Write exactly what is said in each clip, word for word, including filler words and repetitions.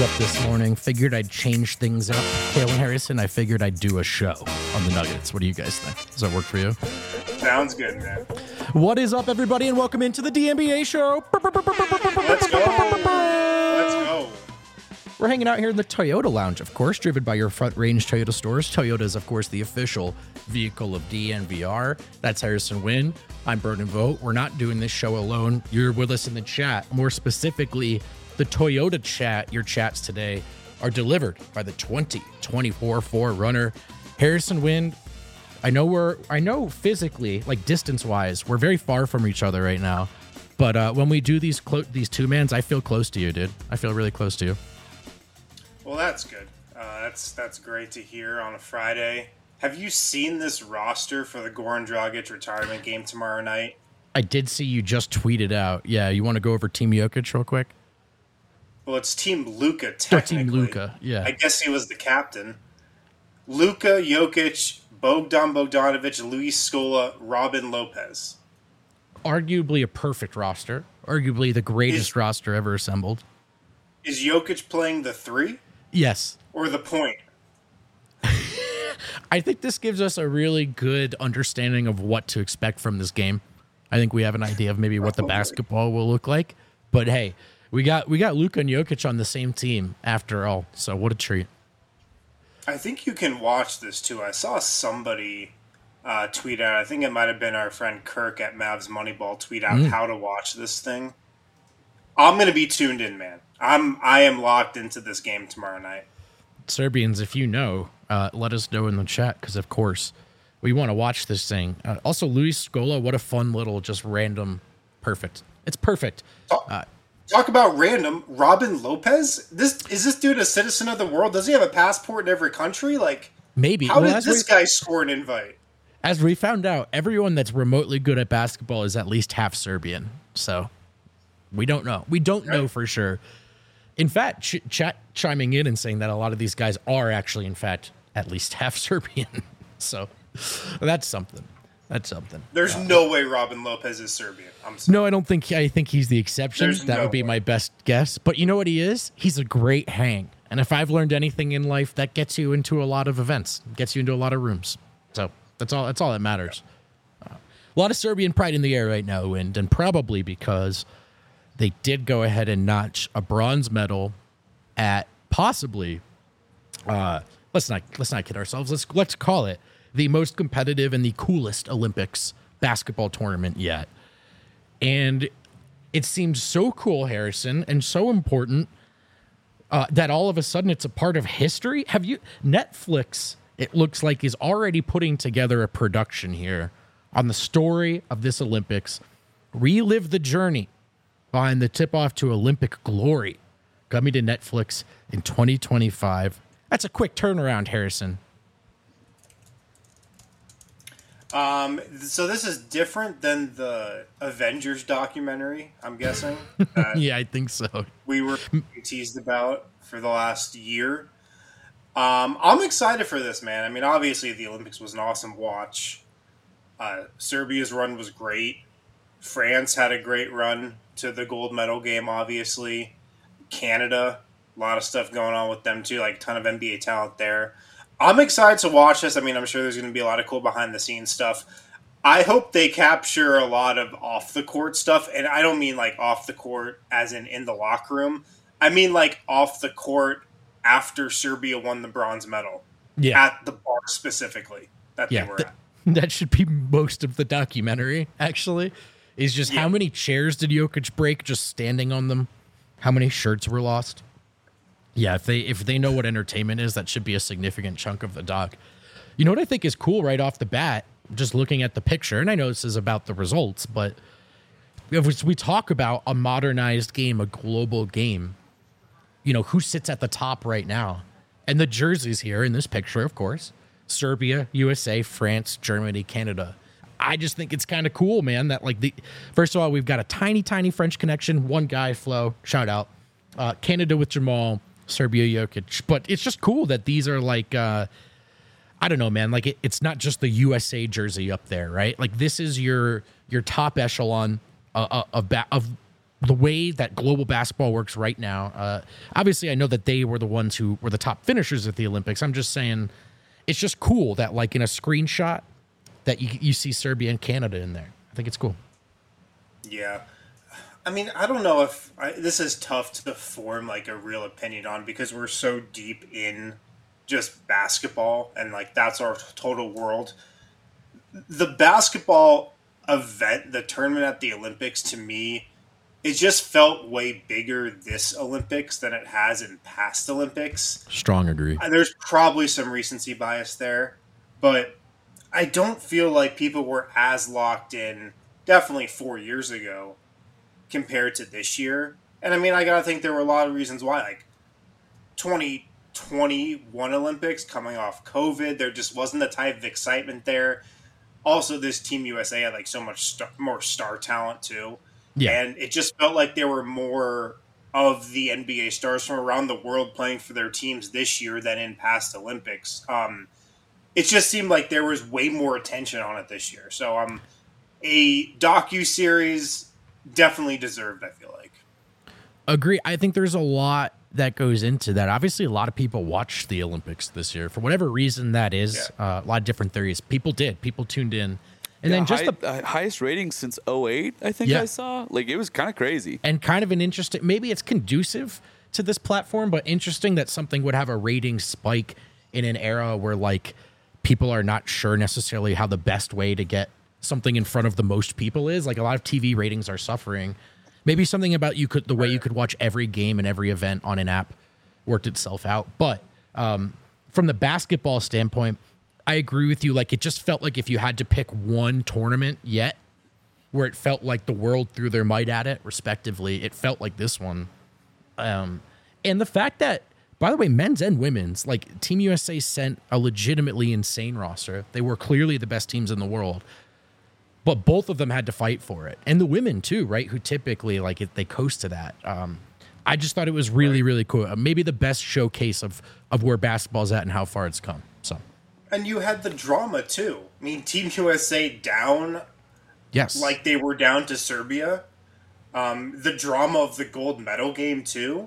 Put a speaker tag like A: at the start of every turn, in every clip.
A: up this morning, figured I'd change things up. Kalen Harrison, I figured I'd do a show on the Nuggets. What do you guys think? Does that work for you?
B: Sounds good, man.
A: What is up, everybody, and welcome into the D N B A show.
B: Let's go. Let's go.
A: We're hanging out here in the Toyota Lounge, of course, driven by your Front Range Toyota stores. Toyota is, of course, the official vehicle of D N V R. That's Harrison Wynn. I'm Burden Vogt. We're not doing this show alone. You're with us in the chat. More specifically, the Toyota chat, your chats today, are delivered by the twenty twenty-four four runner, Harrison Wynn. I know we're, I know physically, like distance-wise, we're very far from each other right now. But uh, when we do these clo- these two-mans, I feel close to you, dude. I feel really close to you.
B: Well, that's good. Uh, that's that's great to hear on a Friday. Have you seen this roster for the Goran Dragic retirement game tomorrow night?
A: I did see you just tweeted out. Yeah, you want to go over Team Jokic real quick?
B: Well, it's Team Luka, technically.
A: Team Luka, yeah.
B: I guess he was the captain. Luka, Jokic, Bogdan Bogdanovic, Luis Scola, Robin Lopez.
A: Arguably a perfect roster. Arguably the greatest is, roster ever assembled.
B: Is Jokic playing the three?
A: Yes.
B: Or the point?
A: I think this gives us a really good understanding of what to expect from this game. I think we have an idea of maybe what the basketball will look like. But hey, we got we got Luka and Jokic on the same team after all. So what a treat.
B: I think you can watch this too. I saw somebody uh, tweet out, I think it might have been our friend Kirk at Mavs Moneyball, tweet out mm. how to watch this thing. I'm going to be tuned in, man. I'm I am locked into this game tomorrow night.
A: Serbians, if you know, uh, let us know in the chat, because of course we want to watch this thing. Uh, also, Luis Scola, what a fun little just random, perfect. It's perfect.
B: Talk,
A: uh,
B: talk about random. Robin Lopez. This is this dude a citizen of the world? Does he have a passport in every country? Like
A: maybe.
B: How
A: well,
B: did this we, guy score an invite?
A: As we found out, everyone that's remotely good at basketball is at least half Serbian. So we don't know. We don't right. know for sure. In fact, ch- chat chiming in and saying that a lot of these guys are actually, in fact, at least half Serbian. So that's something. That's something.
B: There's uh, no way Robin Lopez is Serbian. I'm sorry.
A: No, I don't think. I think he's the exception.
B: There's
A: that
B: no
A: would be
B: way.
A: my best guess. But you know what he is? He's a great hang. And if I've learned anything in life, that gets you into a lot of events, gets you into a lot of rooms. So that's all. That's all that matters. Uh, a lot of Serbian pride in the air right now, and and probably because they did go ahead and notch a bronze medal at possibly, uh, let's not let's not kid ourselves. Let's let's call it the most competitive and the coolest Olympics basketball tournament yet. And it seems so cool, Harrison, and so important uh, that all of a sudden it's a part of history. Have you Netflix? It looks like is already putting together a production here on the story of this Olympics. Relive the journey behind the tip-off to Olympic glory, coming to Netflix in twenty twenty-five. That's a quick turnaround, Harrison.
B: Um, so this is different than the Avengers documentary, I'm guessing.
A: Yeah, I think so.
B: We were teased about for the last year. Um, I'm excited for this, man. I mean, obviously the Olympics was an awesome watch. Uh, Serbia's run was great. France had a great run to the gold medal game, obviously. Canada, a lot of stuff going on with them too, like a ton of N B A talent there. I'm excited to watch this. I mean, I'm sure there's going to be a lot of cool behind-the-scenes stuff. I hope they capture a lot of off-the-court stuff, and I don't mean like off-the-court as in in the locker room. I mean like off-the-court after Serbia won the bronze medal.
A: Yeah.
B: At the bar specifically that
A: yeah,
B: they were
A: th-
B: at.
A: That should be most of the documentary, actually. Is just yeah. how many chairs did Jokic break just standing on them? How many shirts were lost? Yeah, if they if they know what entertainment is, that should be a significant chunk of the doc. You know what I think is cool right off the bat, just looking at the picture, and I know this is about the results, but if we talk about a modernized game, a global game, you know, who sits at the top right now? And the jerseys here in this picture, of course, Serbia, U S A, France, Germany, Canada. I just think it's kind of cool, man, that like the first of all, we've got a tiny, tiny French connection. One guy, Flo, shout out. Uh, Canada with Jamal, Serbia, Jokic. But it's just cool that these are like, uh, I don't know, man, like it, it's not just the U S A jersey up there, right? Like this is your your top echelon uh, of, of the way that global basketball works right now, uh, obviously I know that they were the ones who were the top finishers at the Olympics. I'm just saying it's just cool that like in a screenshot that you, you see Serbia and Canada in there. I think it's cool.
B: Yeah. I mean, I don't know if I, this is tough to form like a real opinion on because we're so deep in just basketball and like that's our total world. The basketball event, the tournament at the Olympics, to me, it just felt way bigger this Olympics than it has in past Olympics.
A: Strong agree.
B: There's probably some recency bias there, but I don't feel like people were as locked in definitely four years ago compared to this year. And I mean, I gotta think there were a lot of reasons why, like twenty twenty-one Olympics coming off COVID, there just wasn't the type of excitement there. Also, this Team U S A had like so much star- more star talent too.
A: Yeah.
B: And it just felt like there were more of the N B A stars from around the world playing for their teams this year than in past Olympics. Um, it just seemed like there was way more attention on it this year. So um, a docu-series definitely deserved, I feel like.
A: Agree. I think there's a lot that goes into that. Obviously, a lot of people watched the Olympics this year. For whatever reason that is, yeah. uh, a lot of different theories. People did. People tuned in. And
C: yeah,
A: then just
C: high,
A: the
C: uh, highest rating since oh eight, I think
A: yeah.
C: I saw. Like, it was kind of crazy.
A: And kind of an interesting, maybe it's conducive to this platform, but interesting that something would have a rating spike in an era where, like, people are not sure necessarily how the best way to get something in front of the most people is. Like, a lot of T V ratings are suffering. Maybe something about you could the way you could watch every game and every event on an app worked itself out. But um, from the basketball standpoint, I agree with you. Like, it just felt like if you had to pick one tournament yet where it felt like the world threw their might at it, respectively, it felt like this one. Um, and the fact that, by the way, men's and women's, like, Team U S A sent a legitimately insane roster. They were clearly the best teams in the world. But both of them had to fight for it. And the women, too, right, who typically, like, it, they coast to that. Um, I just thought it was really, really cool. Uh, maybe the best showcase of, of where basketball's at and how far it's come. So.
B: And you had the drama, too. I mean, Team U S A down,
A: yes,
B: like they were down to Serbia. Um, the drama of the gold medal game, too.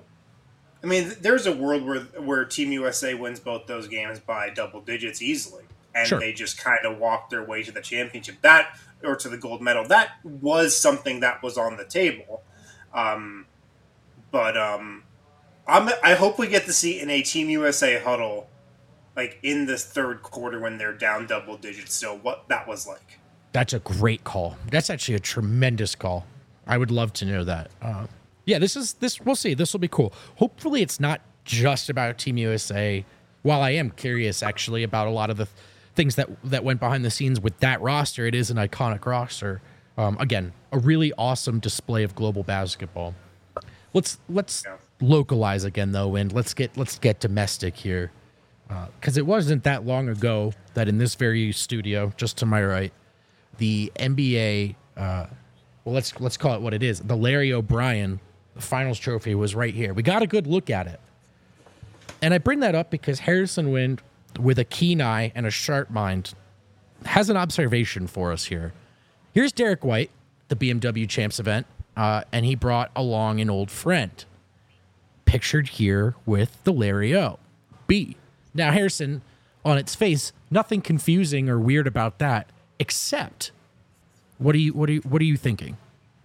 B: I mean, there's a world where where Team U S A wins both those games by double digits easily. And
A: sure.
B: they just kind of walked their way to the championship. That, or to the gold medal. That was something that was on the table. Um, but um, I'm, I hope we get to see in a Team U S A huddle, like in the third quarter when they're down double digits, so what that was like.
A: That's a great call. That's actually a tremendous call. I would love to know that. Uh, yeah, this is this. We'll see. This will be cool. Hopefully, it's not just about Team U S A. While I am curious, actually, about a lot of the th- things that that went behind the scenes with that roster, it is an iconic roster. Um, again, a really awesome display of global basketball. Let's let's yeah. localize again though, and let's get let's get domestic here. Because uh, it wasn't that long ago that in this very studio, just to my right, the N B A, uh, well, let's let's call it what it is, the Larry O'Brien Finals Trophy was right here. We got a good look at it. And I bring that up because Harrison Wind, with a keen eye and a sharp mind, has an observation for us here. Here's Derek White, the B M W Champs event, uh, and he brought along an old friend, pictured here with the Larry O. B. Now, Harrison, on its face, nothing confusing or weird about that, except what are you what are you what are you thinking?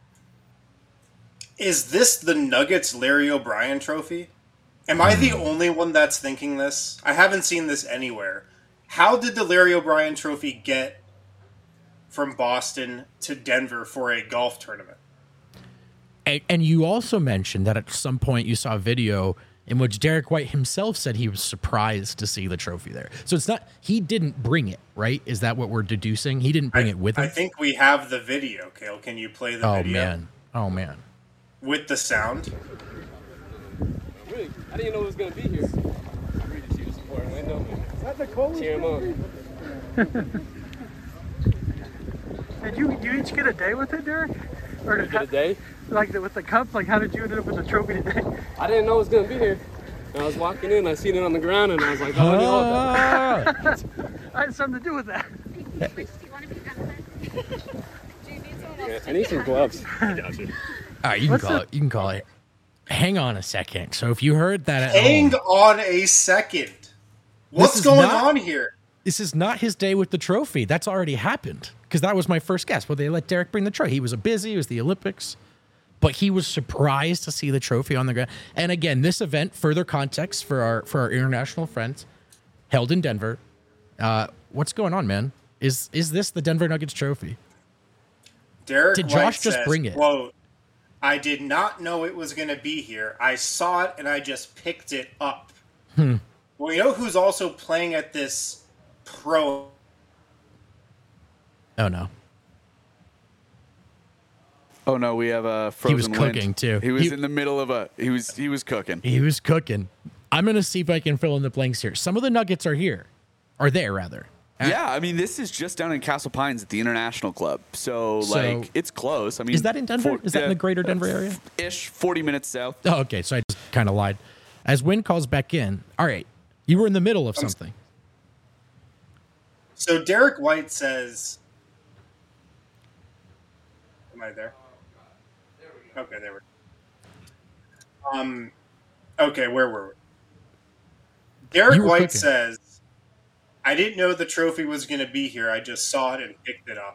B: Is this the Nuggets Larry O'Brien trophy? Am I the only one that's thinking this? I haven't seen this anywhere. How did the Larry O'Brien trophy get from Boston to Denver for a golf tournament?
A: And, and you also mentioned that at some point you saw a video in which Derek White himself said he was surprised to see the trophy there. So it's not, he didn't bring it, right? Is that what we're deducing? He didn't bring
B: I,
A: it with him?
B: I think we have the video, Cale. Can you play the
A: oh,
B: video?
A: Oh, man. Oh, man.
B: With the sound?
D: Really? I didn't know it was going to be here. I read it to you support window. Is that Nicole? Cheer him on.
E: Did you you each get a day with it, Derek? Or did
D: get a day?
E: Like the, with the cup? Like how did you end up with the trophy today?
D: I didn't know it was going to be here. And I was walking in, I seen it on the ground, and I was like, oh, I need that.
E: I had something to do with that.
D: Yeah, I need some gloves.
E: Gotcha.
A: All right, you can
E: What's
A: call
E: the-
A: it. You can call it. Hang on a second. So if you heard that at
B: Hang
A: home,
B: on a second. What's
A: is
B: going
A: not-
B: on here?
A: this is not his day with the trophy. That's already happened. Because that was my first guess. Well, they let Derek bring the trophy. He was a busy. It was the Olympics. But he was surprised to see the trophy on the ground. And again, this event, further context for our for our international friends, held in Denver. Uh, what's going on, man? Is is this the Denver Nuggets trophy?
B: Derek
A: Did
B: White
A: Josh just
B: says,
A: bring it?
B: Quote, I did not know it was going to be here. I saw it and I just picked it up.
A: Hmm.
B: Well, you know who's also playing at this pro?
A: Oh no.
C: Oh no, we have a frozen
A: He was
C: wind.
A: cooking, too.
C: He was
A: He-
C: in the middle of a. He was he was cooking.
A: He was cooking. I'm gonna see if I can fill in the blanks here. Some of the Nuggets are here, are there rather.
C: Yeah, I mean this is just down in Castle Pines at the International Club, so,
A: So-
C: like it's close. I mean,
A: Is that in Denver? Is that in the greater Denver area?
C: Ish, forty minutes south.
A: Oh, okay. So I just kind of lied. As Win calls back in, all right, you were in the middle of something.
B: So Derek White says, "Am I there?" Okay, there we go. Um, okay, where were we? Derek
A: You were
B: White
A: cooking.
B: says, "I didn't know the trophy was going to be here. I just saw it and picked it up."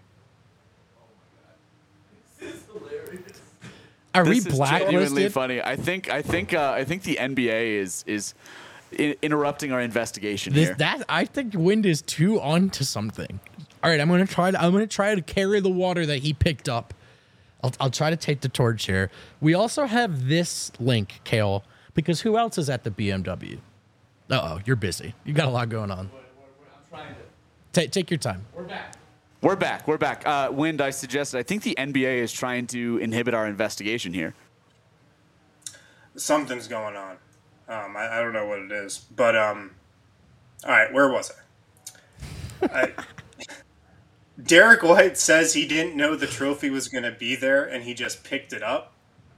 A: Are we
C: This is genuinely
A: blacklisted?
C: funny. I think I think uh, I think the N B A is is I- interrupting our investigation
A: This,
C: here.
A: that I think Wind is too onto something. All right, I'm gonna try to I'm gonna try to carry the water that he picked up. I'll I'll try to take the torch here. We also have this link, Kale, because who else is at the B M W? Uh oh, you're busy. You got a lot going on. Take take your time.
C: We're back. We're back. Uh, Wind, I suggested. I think the N B A is trying to inhibit our investigation here.
B: Something's going on. Um, I, I don't know what it is, but um, all right, where was I? I Derek White says he didn't know the trophy was going to be there, and he just picked it up.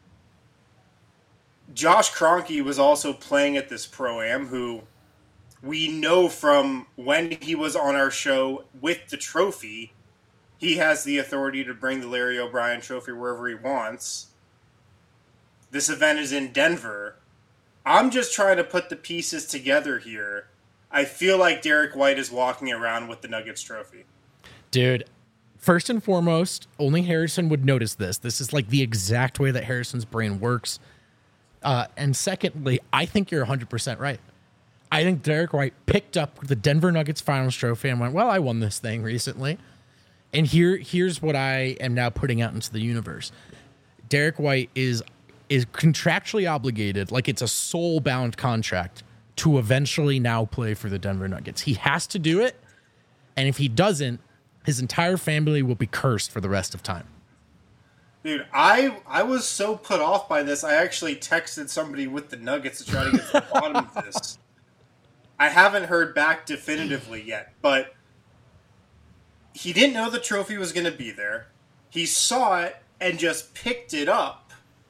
B: Josh Kroenke was also playing at this Pro-Am, who we know from when he was on our show with the trophy, he has the authority to bring the Larry O'Brien trophy wherever he wants. This event is in Denver. I'm just trying to put the pieces together here. I feel like Derek White is walking around with the Nuggets trophy.
A: Dude, first and foremost, only Harrison would notice this. This is like the exact way that Harrison's brain works. Uh, and secondly, I think you're one hundred percent right. I think Derek White picked up the Denver Nuggets Finals trophy and went, well, I won this thing recently. And here, here's what I am now putting out into the universe. Derek White is is contractually obligated, like it's a soul-bound contract, to eventually now play for the Denver Nuggets. He has to do it, and if he doesn't, his entire family will be cursed for the rest of time.
B: Dude, I I was so put off by this, I actually texted somebody with the Nuggets to try to get to the bottom of this. I haven't heard back definitively yet, but he didn't know the trophy was going to be there. He saw it and just picked it up.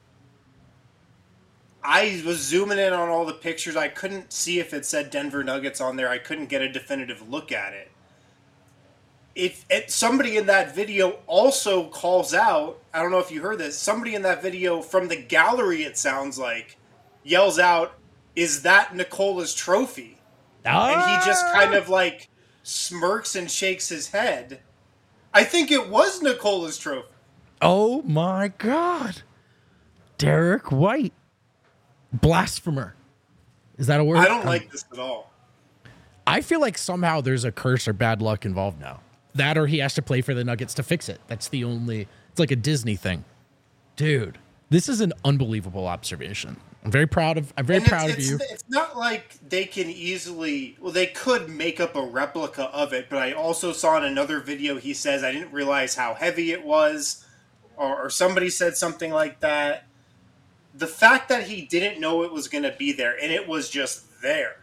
B: I was zooming in on all the pictures. I couldn't see if it said Denver Nuggets on there. I couldn't get a definitive look at it. If it, somebody in that video also calls out, I don't know if you heard this, somebody in that video from the gallery, it sounds like, yells out, "Is that Nicola's trophy?"
A: Ah!
B: And he just kind of like smirks and shakes his head. I think it was Nicola's trophy.
A: Oh my God. Derek White. Blasphemer. Is that a word?
B: I don't
A: Um,
B: like this at all.
A: I feel like somehow there's a curse or bad luck involved now. That or he has to play for the Nuggets to fix it. That's the only, it's like a Disney thing. Dude, this is an unbelievable observation. I'm very proud of, I'm very
B: And it's-
A: proud of
B: it's,
A: you.
B: It's not like they can easily, well, they could make up a replica of it, but I also saw in another video he says, I didn't realize how heavy it was, or, or somebody said something like that. The fact that he didn't know it was going to be there, and it was just there.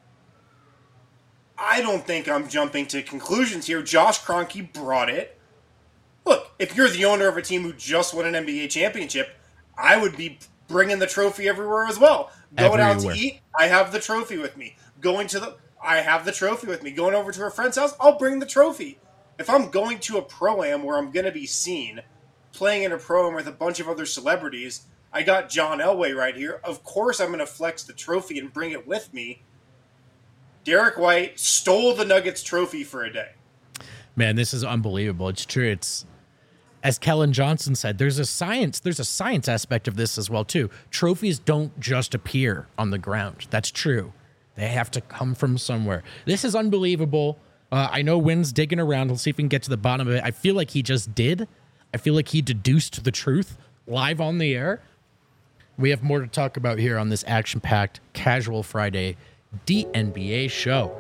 B: I don't think I'm jumping to conclusions here. Josh Kroenke brought it. Look, if you're the owner of a team who just won an N B A championship, I would be bringing the trophy everywhere as well. Going out
A: Everywhere.
B: to eat, I have the trophy with me. Going to the, I have the trophy with me. Going over to a friend's house, I'll bring the trophy. If I'm going to a Pro-Am where I'm going to be seen, playing in a pro-am with a bunch of other celebrities. I got John Elway right here. Of course I'm going to flex the trophy and bring it with me. Derek White stole the Nuggets trophy for a day.
A: Man, this is unbelievable. It's true. It's, as Kellen Johnson said, there's a science, there's a science aspect of this as well, too. Trophies don't just appear on the ground. That's true. They have to come from somewhere. This is unbelievable. Uh, I know Wynn's digging around. Let's see if we can get to the bottom of it. I feel like he just did. I feel like he deduced the truth live on the air. We have more to talk about here on this action-packed Casual Friday D N B A show.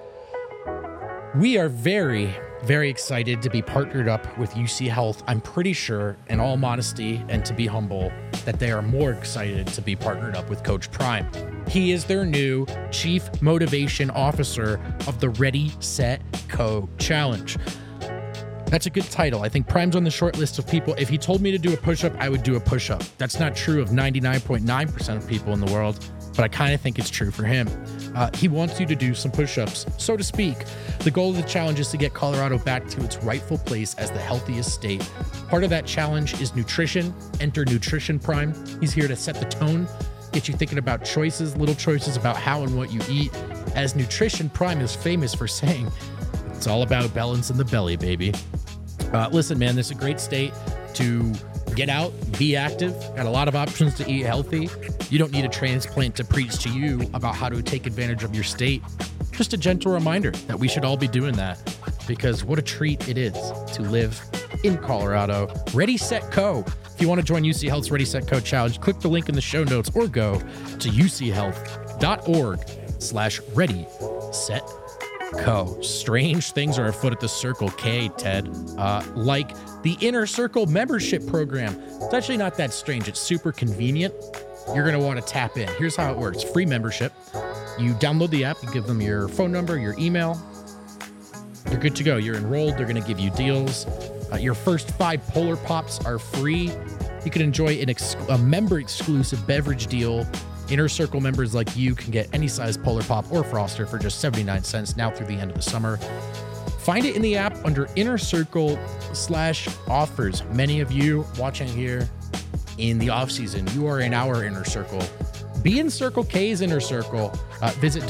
A: We are very, very excited to be partnered up with U C Health. I'm pretty sure, in all modesty and to be humble, that they are more excited to be partnered up with Coach Prime. He is their new Chief Motivation Officer of the Ready, Set, Co Challenge. That's a good title. I think Prime's on the short list of people. If he told me to do a push-up, I would do a push-up. That's not true of ninety-nine point nine percent of people in the world, but I kind of think it's true for him. Uh, he wants you to do some push-ups, so to speak. The goal of the challenge is to get Colorado back to its rightful place as the healthiest state. Part of that challenge is nutrition. Enter Nutrition Prime. He's here to set the tone, get you thinking about choices, little choices about how and what you eat. As Nutrition Prime is famous for saying, it's all about balance in the belly, baby. Uh, listen, man, this is a great state to get out, be active, got a lot of options to eat healthy. You don't need a transplant to preach to you about how to take advantage of your state. Just a gentle reminder that we should all be doing that, because what a treat it is to live in Colorado. Ready, Set, Co. If you want to join U C Health's Ready, Set, Co challenge, click the link in the show notes or go to uchealth.org slash ready, set, Co. Strange things are afoot at the Circle K, Ted. Uh, like the Inner Circle membership program. It's actually not that strange. It's super convenient. You're going to want to tap in. Here's how it works. Free membership. You download the app. You give them your phone number, your email. You're good to go. You're enrolled. They're going to give you deals. Uh, your first five Polar Pops are free. You can enjoy an ex- a member-exclusive beverage deal. Inner Circle members like you can get any size Polar Pop or Froster for just seventy-nine cents now through the end of the summer. Find it in the app under Inner Circle slash offers. Many of you watching here in the off season, you are in our Inner Circle. Be in Circle K's Inner Circle. Uh, visit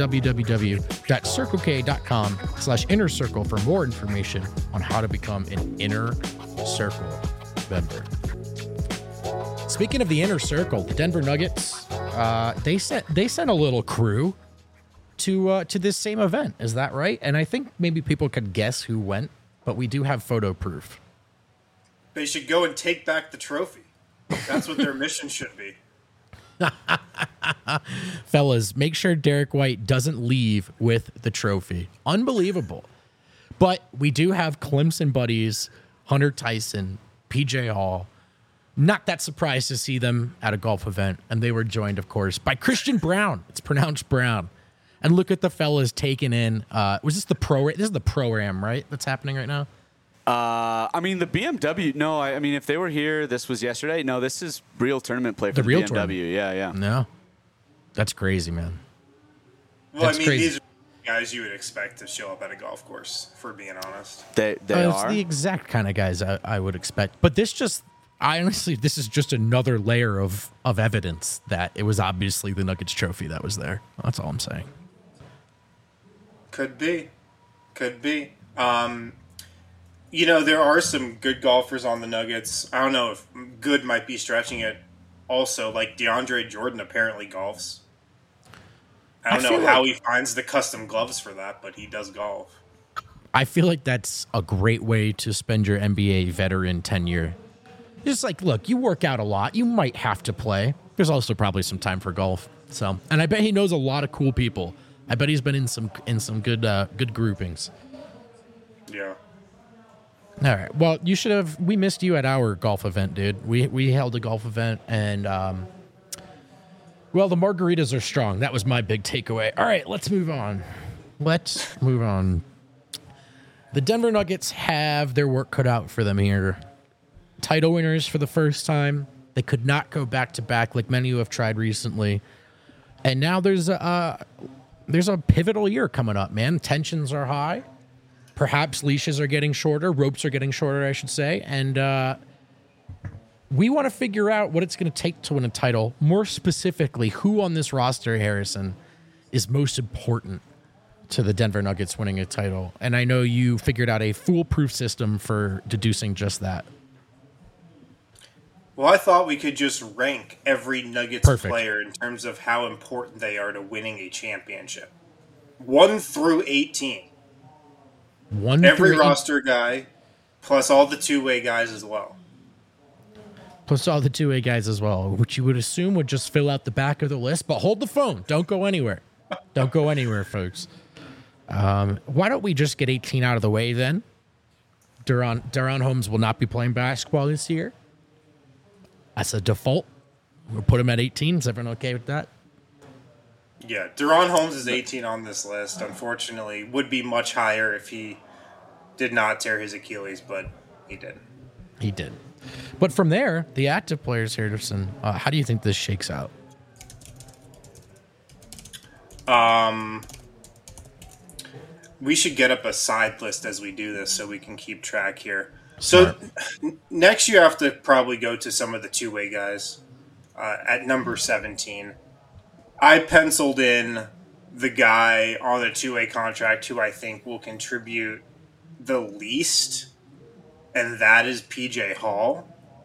A: www.circlek.com slash Inner Circle for more information on how to become an Inner Circle member. Speaking of the Inner Circle, the Denver Nuggets, uh, they sent they sent a little crew to uh, to this same event. Is that right? And I think maybe people could guess who went, but we do have photo proof.
B: They should go and take back the trophy. That's what their mission should be.
A: Fellas, make sure Derek White doesn't leave with the trophy. Unbelievable. But we do have Clemson buddies, Hunter Tyson, P J Hall. Not that surprised to see them at a golf event. And they were joined, of course, by Christian Brown. It's pronounced Brown. And look at the fellas taking in. Uh, was this the pro? This is the pro-am, right? That's happening right now?
C: Uh, I mean, the B M W, no, I, I mean, if they were here, this was yesterday. No, this is real tournament play for
A: The
C: the,
A: real
C: B M W. Yeah, yeah.
A: No. That's crazy, man.
B: Well,
A: That's
B: I mean,
A: crazy.
B: these are guys you would expect to show up at a golf course, for being honest.
C: They, they
A: Uh, it's
C: are.
A: the exact kind of guys I, I would expect. But this just, I honestly, this is just another layer of, of evidence that it was obviously the Nuggets trophy that was there. That's all I'm saying.
B: Could be. Could be. Um, you know, there are some good golfers on the Nuggets. I don't know if good might be stretching it. Also, like DeAndre Jordan apparently golfs. I don't
A: I
B: know
A: feel
B: how
A: like-
B: he finds the custom gloves for that, but he does golf.
A: I feel like that's a great way to spend your N B A veteran tenure. Just like, look, you work out a lot. You might have to play. There's also probably some time for golf. So, and I bet he knows a lot of cool people. I bet he's been in some in some good uh, good groupings.
B: Yeah.
A: All right. Well, you should have. We missed you at our golf event, dude. We we held a golf event, and um, well, the margaritas are strong. That was my big takeaway. All right, let's move on. Let's move on. The Denver Nuggets have their work cut out for them here. Title winners for the first time. They could not go back to back like many who have tried recently, and now there's a uh, there's a pivotal year coming up. Man, tensions are high. Perhaps leashes are getting shorter, ropes are getting shorter, I should say, and uh, we want to figure out what it's going to take to win a title. More specifically, who on this roster, Harrison, is most important to the Denver Nuggets winning a title. And I know you figured out a foolproof system for deducing just that.
B: Well, I thought we could just rank every Nuggets
A: Perfect.
B: player in terms of how important they are to winning a championship. one through eighteen.
A: One
B: Every
A: through eight-
B: roster guy, plus all the two-way guys as well.
A: Plus all the two-way guys as well, which you would assume would just fill out the back of the list. But hold the phone. Don't go anywhere. Don't go anywhere, folks. Um, why don't we just get eighteen out of the way then? Duran, Duran Holmes will not be playing basketball this year. That's a default. We'll put him at eighteen. Is everyone okay with that?
B: Yeah, Deron Holmes is eighteen on this list. Unfortunately, would be much higher if he did not tear his Achilles, but he did.
A: He did. But from there, the active players, Harrison, uh, how do you think this shakes out?
B: Um, we should get up a side list as we do this so we can keep track here. So n- next you have to probably go to some of the two-way guys uh, at number seventeen. I penciled in the guy on a two-way contract who I think will contribute the least, and that is P J Hall.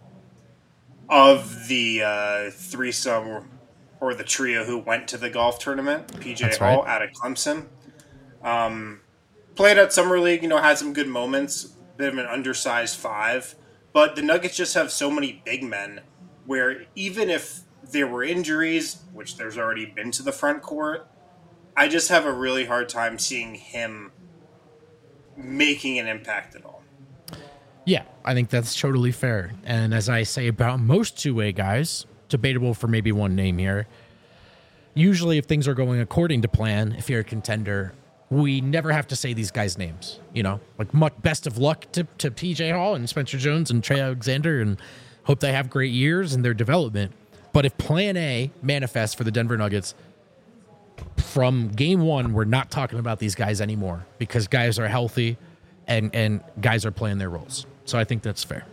B: Of the uh, threesome or the trio who went to the golf tournament, P J
A: That's
B: Hall
A: right.
B: out of Clemson. Um, played at Summer League, you know, had some good moments, bit of an undersized five, but the Nuggets just have so many big men where even if there were injuries, which there's already been to the front court, I just have a really hard time seeing him making an impact at all.
A: Yeah, I think that's totally fair. And as I say about most two-way guys, debatable for maybe one name here, usually if things are going according to plan, if you're a contender, we never have to say these guys' names. You know, like much best of luck to, to P J Hall and Spencer Jones and Trey Alexander, and hope they have great years in their development. But if plan A manifests for the Denver Nuggets, from game one, we're not talking about these guys anymore because guys are healthy and, and guys are playing their roles. So I think that's fair.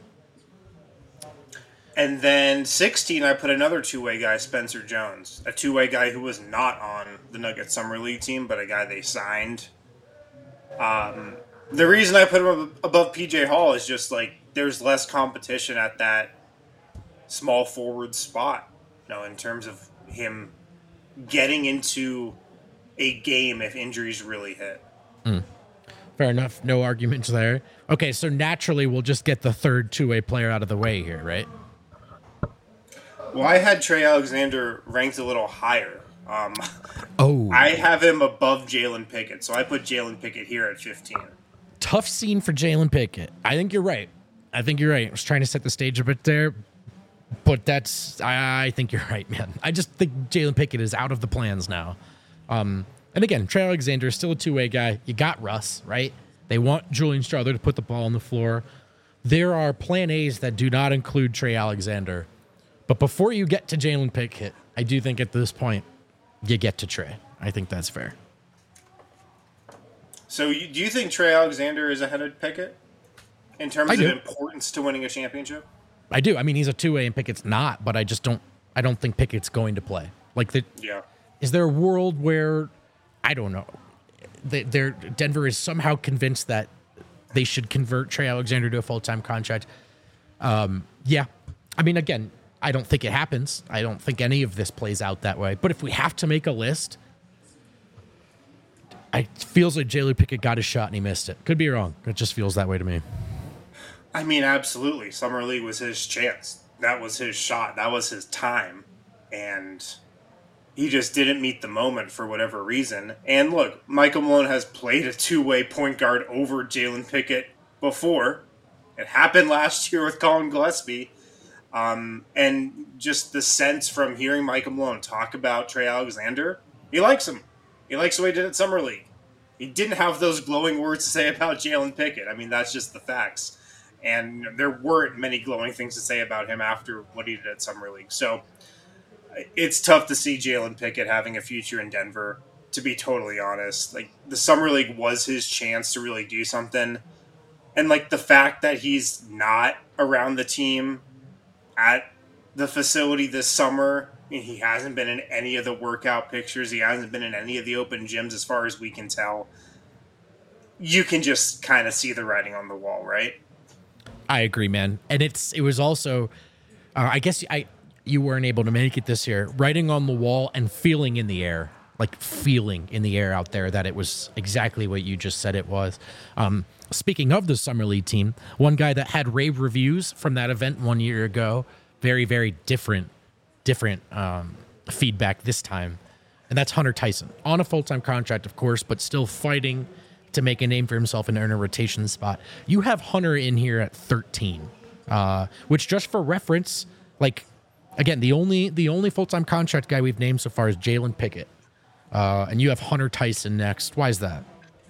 B: And then sixteen, I put another two-way guy, Spencer Jones, a two-way guy who was not on the Nuggets Summer League team, but a guy they signed. Um, the reason I put him above P J Hall is just like there's less competition at that small forward spot, you know, in terms of him getting into a game if injuries really hit.
A: Mm. Fair enough. No arguments there. Okay, so naturally we'll just get the third two-way player out of the way here, right?
B: Well, I had Trey Alexander ranked a little higher. Um,
A: oh.
B: I have him above Jalen Pickett, so I put Jalen Pickett here at fifteen.
A: Tough scene for Jalen Pickett. I think you're right. I think you're right. I was trying to set the stage a bit there, but that's, I, I think you're right, man. I just think Jalen Pickett is out of the plans now. Um, and again, Trey Alexander is still a two-way guy. You got Russ, right? They want Julian Strawther to put the ball on the floor. There are plan A's that do not include Trey Alexander. But before you get to Jalen Pickett, I do think at this point, you get to Trey. I think that's fair.
B: So you, do you think Trey Alexander is ahead of Pickett in terms
A: I
B: of
A: do.
B: importance to winning a championship?
A: I do. I mean, he's a two-way and Pickett's not, but I just don't I don't think Pickett's going to play. Like, the,
B: Yeah.
A: is there a world where, I don't know, they, they're, Denver is somehow convinced that they should convert Trey Alexander to a full-time contract? Um, yeah. I mean, again, I don't think it happens. I don't think any of this plays out that way. But if we have to make a list, it feels like Jalen Pickett got his shot and he missed it. Could be wrong. It just feels that way to me.
B: I mean, absolutely. Summer League was his chance. That was his shot. That was his time. And he just didn't meet the moment for whatever reason. And look, Michael Malone has played a two-way point guard over Jalen Pickett before. It happened last year with Colin Gillespie. Um, and just the sense from hearing Michael Malone talk about Trey Alexander, he likes him. He likes the way he did at Summer League. He didn't have those glowing words to say about Jalen Pickett. I mean, that's just the facts. And there weren't many glowing things to say about him after what he did at Summer League. So it's tough to see Jalen Pickett having a future in Denver, to be totally honest. Like, the Summer League was his chance to really do something. And, like, the fact that he's not around the team at the facility this summer. He hasn't been in any of the workout pictures. He hasn't been in any of the open gyms as far as we can tell. You can just kind of see the writing on the wall, right?
A: I agree, man. And it's it was also, uh, I guess I you weren't able to make it this year. Writing on the wall and feeling in the air, like feeling in the air out there that it was exactly what you just said it was. Um, speaking of the Summer League team, one guy that had rave reviews from that event one year ago, very, very different, different um, feedback this time. And that's Hunter Tyson. On a full-time contract, of course, but still fighting to make a name for himself and earn a rotation spot. You have Hunter in here at thirteen, uh, which just for reference, like, again, the only the only full-time contract guy we've named so far is Jalen Pickett. Uh, and you have Hunter Tyson next. Why is that?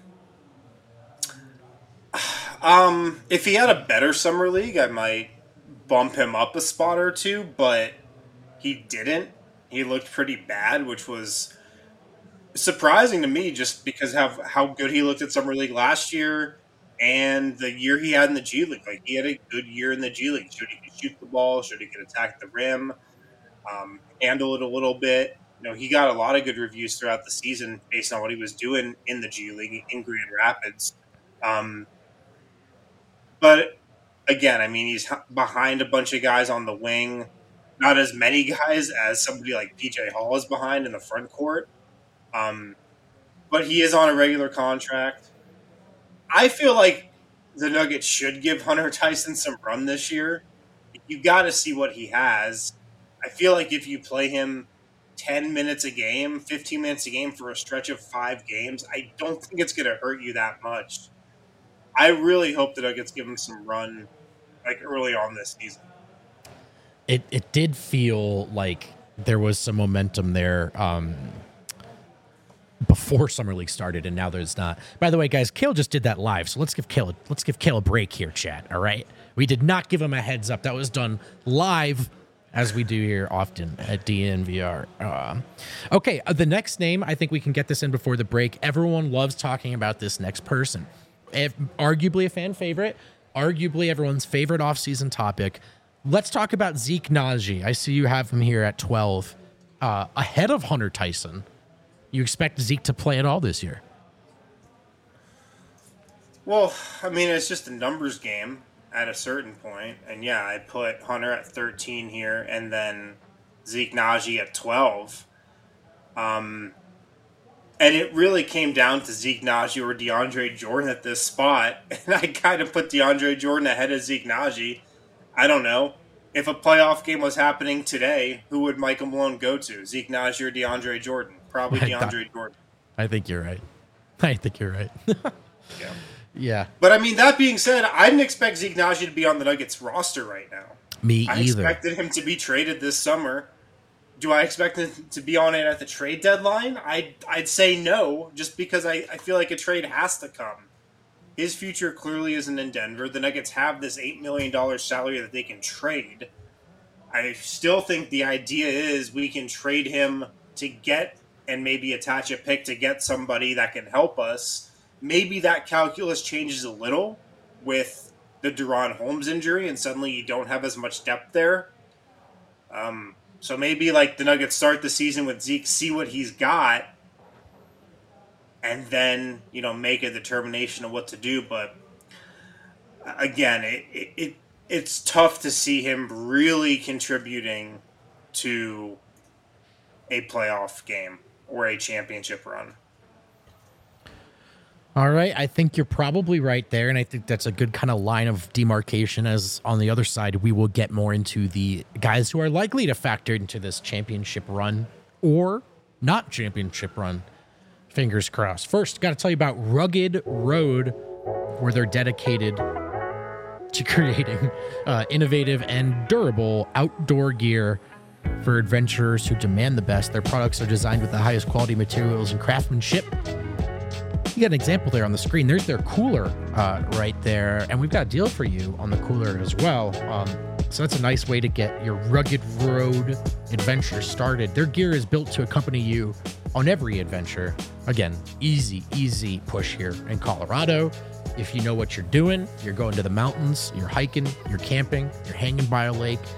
B: Um, if he had a better summer league, I might bump him up a spot or two, but he didn't. He looked pretty bad, which was surprising to me just because of how good he looked at summer league last year and the year he had in the G League. Like, he had a good year in the G League. Should he could shoot the ball, should he could attack the rim, um, handle it a little bit. You know, he got a lot of good reviews throughout the season based on what he was doing in the G League in Grand Rapids. Um, but again, I mean, he's behind a bunch of guys on the wing. Not as many guys as somebody like P J Hall is behind in the front court. Um, but he is on a regular contract. I feel like the Nuggets should give Hunter Tyson some run this year. You got to see what he has. I feel like if you play him ten minutes a game, fifteen minutes a game for a stretch of five games, I don't think it's going to hurt you that much. I really hope the Nuggets give him some run like early on this season.
A: It it did feel like there was some momentum there um, before Summer League started, and now there's not. By the way, guys, Kale just did that live, so let's give Kale let's give Kale a break here, chat. All right, we did not give him a heads up. That was done live, as we do here often at D N V R. Uh, okay, uh, the next name, I think we can get this in before the break. Everyone loves talking about this next person. If, arguably a fan favorite, arguably everyone's favorite offseason topic. Let's talk about Zeke Nnaji. I see you have him here at twelve, uh, ahead of Hunter Tyson. You expect Zeke to play at all this year?
B: Well, I mean, it's just a numbers game at a certain point. And yeah, I put Hunter at thirteen here and then Zeke Nnaji at twelve. Um, and it really came down to Zeke Nnaji or DeAndre Jordan at this spot. And I kind of put DeAndre Jordan ahead of Zeke Nnaji. I don't know. If a playoff game was happening today, who would Michael Malone go to? Zeke Nnaji or DeAndre Jordan? Probably DeAndre Jordan.
A: I think you're right. I think you're right.
B: Yeah.
A: Yeah.
B: But, I mean, that being said, I didn't expect Zeke Nnaji to be on the Nuggets roster right now.
A: Me
B: I
A: either.
B: I expected him to be traded this summer. Do I expect him to be on it at the trade deadline? I'd, I'd say no, just because I, I feel like a trade has to come. His future clearly isn't in Denver. The Nuggets have this eight million dollars salary that they can trade. I still think the idea is we can trade him to get and maybe attach a pick to get somebody that can help us. Maybe that calculus changes a little with the De'Ron Holmes injury, and suddenly you don't have as much depth there. Um, so maybe like the Nuggets start the season with Zeke, see what he's got, and then, you know, make a determination of what to do. But again, it, it, it it's tough to see him really contributing to a playoff game or a championship run.
A: All right. I think you're probably right there. And I think that's a good kind of line of demarcation, as on the other side, we will get more into the guys who are likely to factor into this championship run or not championship run. Fingers crossed. First, got to tell you about Rugged Road, where they're dedicated to creating uh, innovative and durable outdoor gear for adventurers who demand the best. Their products are designed with the highest quality materials and craftsmanship. You got an example there on the screen. There's their cooler uh, right there, and we've got a deal for you on the cooler as well. Um, so that's a nice way to get your Rugged Road adventure started. Their gear is built to accompany you on every adventure. Again, easy, easy push here in Colorado. If you know what you're doing, you're going to the mountains, you're hiking, you're camping, you're hanging by a lake,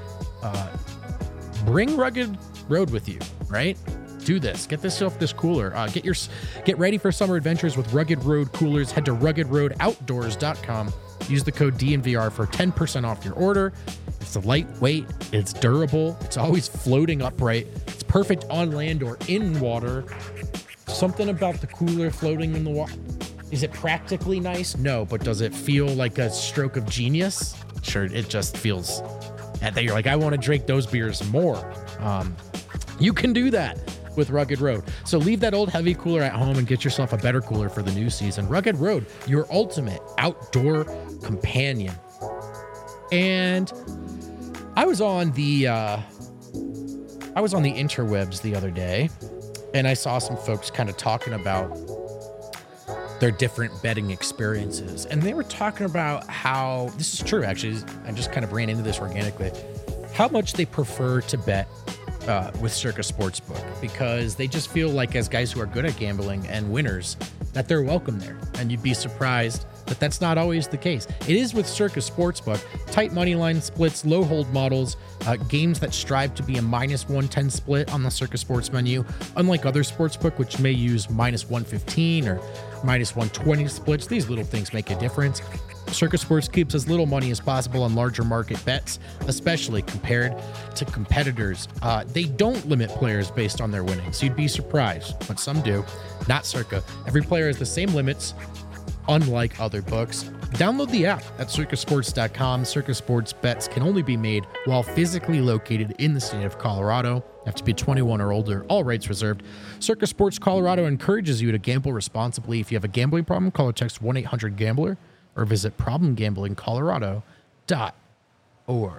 A: uh, bring Rugged Road with you, right? Do this. Get yourself this cooler. Uh, get your get ready for summer adventures with Rugged Road coolers. Head to rugged road outdoors dot com. Use the code D N V R for ten percent off your order. It's lightweight. It's durable. It's always floating upright. It's perfect on land or in water. Something about the cooler floating in the water. Is it practically nice? No, but does it feel like a stroke of genius? Sure, it just feels. And then you're like, I want to drink those beers more. Um, you can do that with Rugged Road. So leave that old heavy cooler at home and get yourself a better cooler for the new season. Rugged Road, your ultimate outdoor companion. And I was on the uh, I was on the interwebs the other day, and I saw some folks kind of talking about their different betting experiences, and they were talking about how this is true. Actually, I just kind of ran into this organically. How much they prefer to bet Uh, with Circa Sportsbook, because they just feel like, as guys who are good at gambling and winners, that they're welcome there. And you'd be surprised that that's not always the case. It is with Circa Sportsbook. Tight money line splits, low hold models, uh, games that strive to be a minus one ten split on the Circa Sports menu, unlike other sportsbook, which may use minus one fifteen or minus one twenty splits. These little things make a difference. Circa Sports keeps as little money as possible on larger market bets, especially compared to competitors. Uh, they don't limit players based on their winnings. You'd be surprised, but some do. Not Circa. Every player has the same limits, unlike other books. Download the app at circa sports dot com. Circa Sports bets can only be made while physically located in the state of Colorado. You have to be twenty-one or older. All rights reserved. Circa Sports Colorado encourages you to gamble responsibly. If you have a gambling problem, call or text one eight hundred gambler. Or visit problem gambling colorado dot org.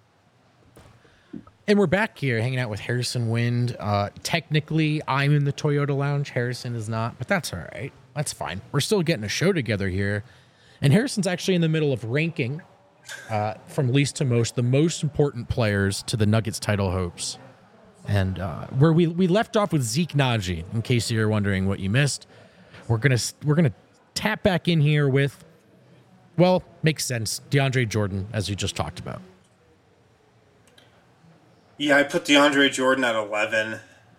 A: And we're back here hanging out with Harrison Wind. Uh, technically, I'm in the Toyota Lounge. Harrison is not, but that's all right. That's fine. We're still getting a show together here. And Harrison's actually in the middle of ranking, uh, from least to most, the most important players to the Nuggets title hopes. And uh, where we, we left off with Zeke Naji, in case you're wondering what you missed, we're gonna we're gonna tap back in here with, well, makes sense, DeAndre Jordan, as you just talked about.
B: Yeah, I put DeAndre Jordan at eleven.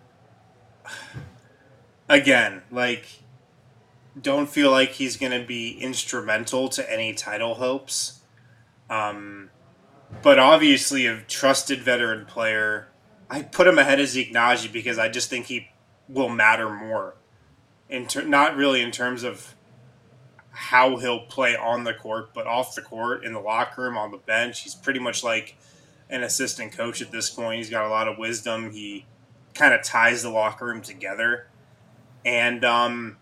B: Again, like, don't feel like he's going to be instrumental to any title hopes. Um, but obviously, a trusted veteran player. I put him ahead of Zeke Naji because I just think he will matter more. In ter- not really in terms of how he'll play on the court, but off the court, in the locker room, on the bench. He's pretty much like an assistant coach at this point. He's got a lot of wisdom. He kind of ties the locker room together. And, um,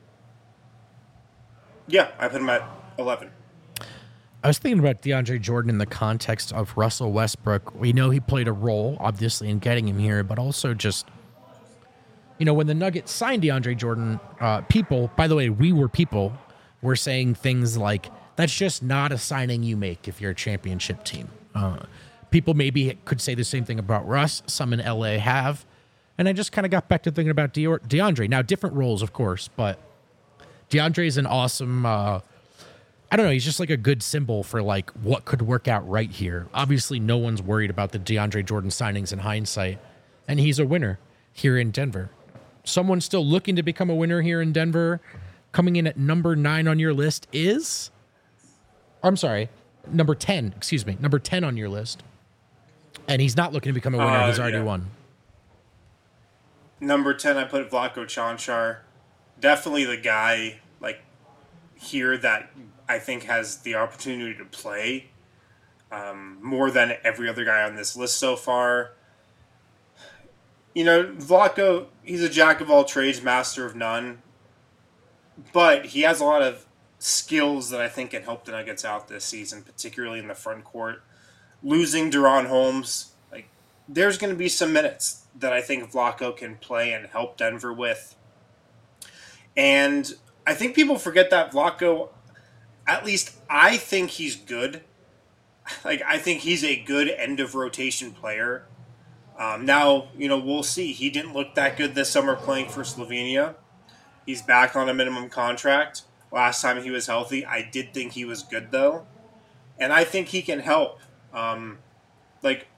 B: yeah, I put him at eleven.
A: I was thinking about DeAndre Jordan in the context of Russell Westbrook. We know he played a role, obviously, in getting him here, but also just, you know, when the Nuggets signed DeAndre Jordan, uh, people, by the way, we were people, we're saying things like, that's just not a signing you make if you're a championship team. Uh, people maybe could say the same thing about Russ. Some in L A have. And I just kind of got back to thinking about De- DeAndre. Now, different roles, of course, but DeAndre is an awesome, uh, I don't know, he's just like a good symbol for like what could work out right here. Obviously, no one's worried about the DeAndre Jordan signings in hindsight, and he's a winner here in Denver. Someone still looking to become a winner here in Denver, coming in at number nine on your list is, I'm sorry, number ten, excuse me, number ten on your list. And he's not looking to become a winner.
B: Uh,
A: he's already
B: yeah.
A: won.
B: Number ten, I put Vlatko Čančar. Definitely the guy, like, here that I think has the opportunity to play um, more than every other guy on this list so far. You know, Vlatko, he's a jack of all trades, master of none. But he has a lot of skills that I think can help the Nuggets out this season, particularly in the front court. Losing Deron Holmes, like, there's going to be some minutes that I think Vlatko can play and help Denver with. And I think people forget that Vlatko, at least I think he's good. Like, I think he's a good end-of-rotation player. Um, now, you know, we'll see. He didn't look that good this summer playing for Slovenia. He's back on a minimum contract. Last time he was healthy, I did think he was good, though. And I think he can help. Um, like,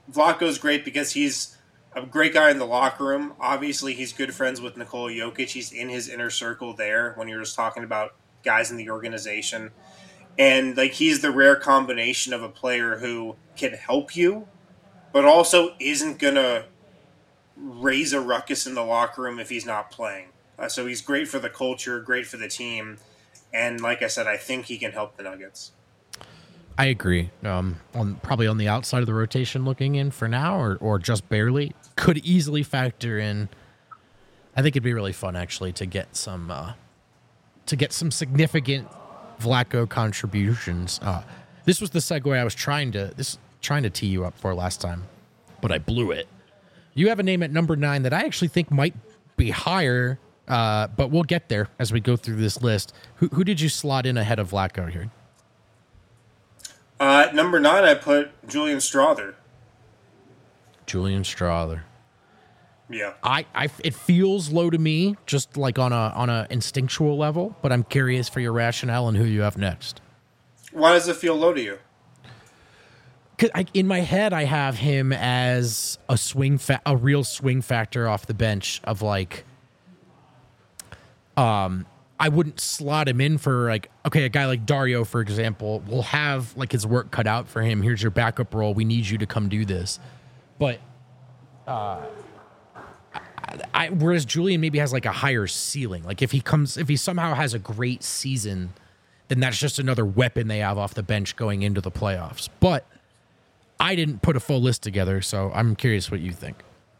B: Vlatko's great because he's a great guy in the locker room. Obviously, he's good friends with Nikola Jokic. He's in his inner circle there when you're just talking about guys in the organization. And like he's the rare combination of a player who can help you, but also isn't going to raise a ruckus in the locker room if he's not playing. Uh, so he's great for the culture, great for the team. And like I said, I think he can help the Nuggets.
A: I agree. Um, on probably on the outside of the rotation looking in for now, or, or just barely, could easily factor in. I think it'd be really fun actually to get some uh, to get some significant Vlatko contributions. Uh, this was the segue I was trying to this trying to tee you up for last time, but I blew it. You have a name at number nine that I actually think might be higher, uh, but we'll get there as we go through this list. Who, who did you slot in ahead of Vlatko here?
B: Uh, at number nine, I put Julian Strawther.
A: Julian Strawther.
B: Yeah,
A: I, I, it feels low to me, just like on a on a instinctual level. But I'm curious for your rationale and who you have next.
B: Why does it feel low to you?
A: 'Cause I, in my head, I have him as a swing, fa- a real swing factor off the bench of like. Um, I wouldn't slot him in for like, okay, a guy like Dario, for example, will have like his work cut out for him. Here's your backup role. We need you to come do this. But, uh, I, I, whereas Julian maybe has like a higher ceiling. Like if he comes, if he somehow has a great season, then that's just another weapon they have off the bench going into the playoffs. But I didn't put a full list together, so I'm curious what you think.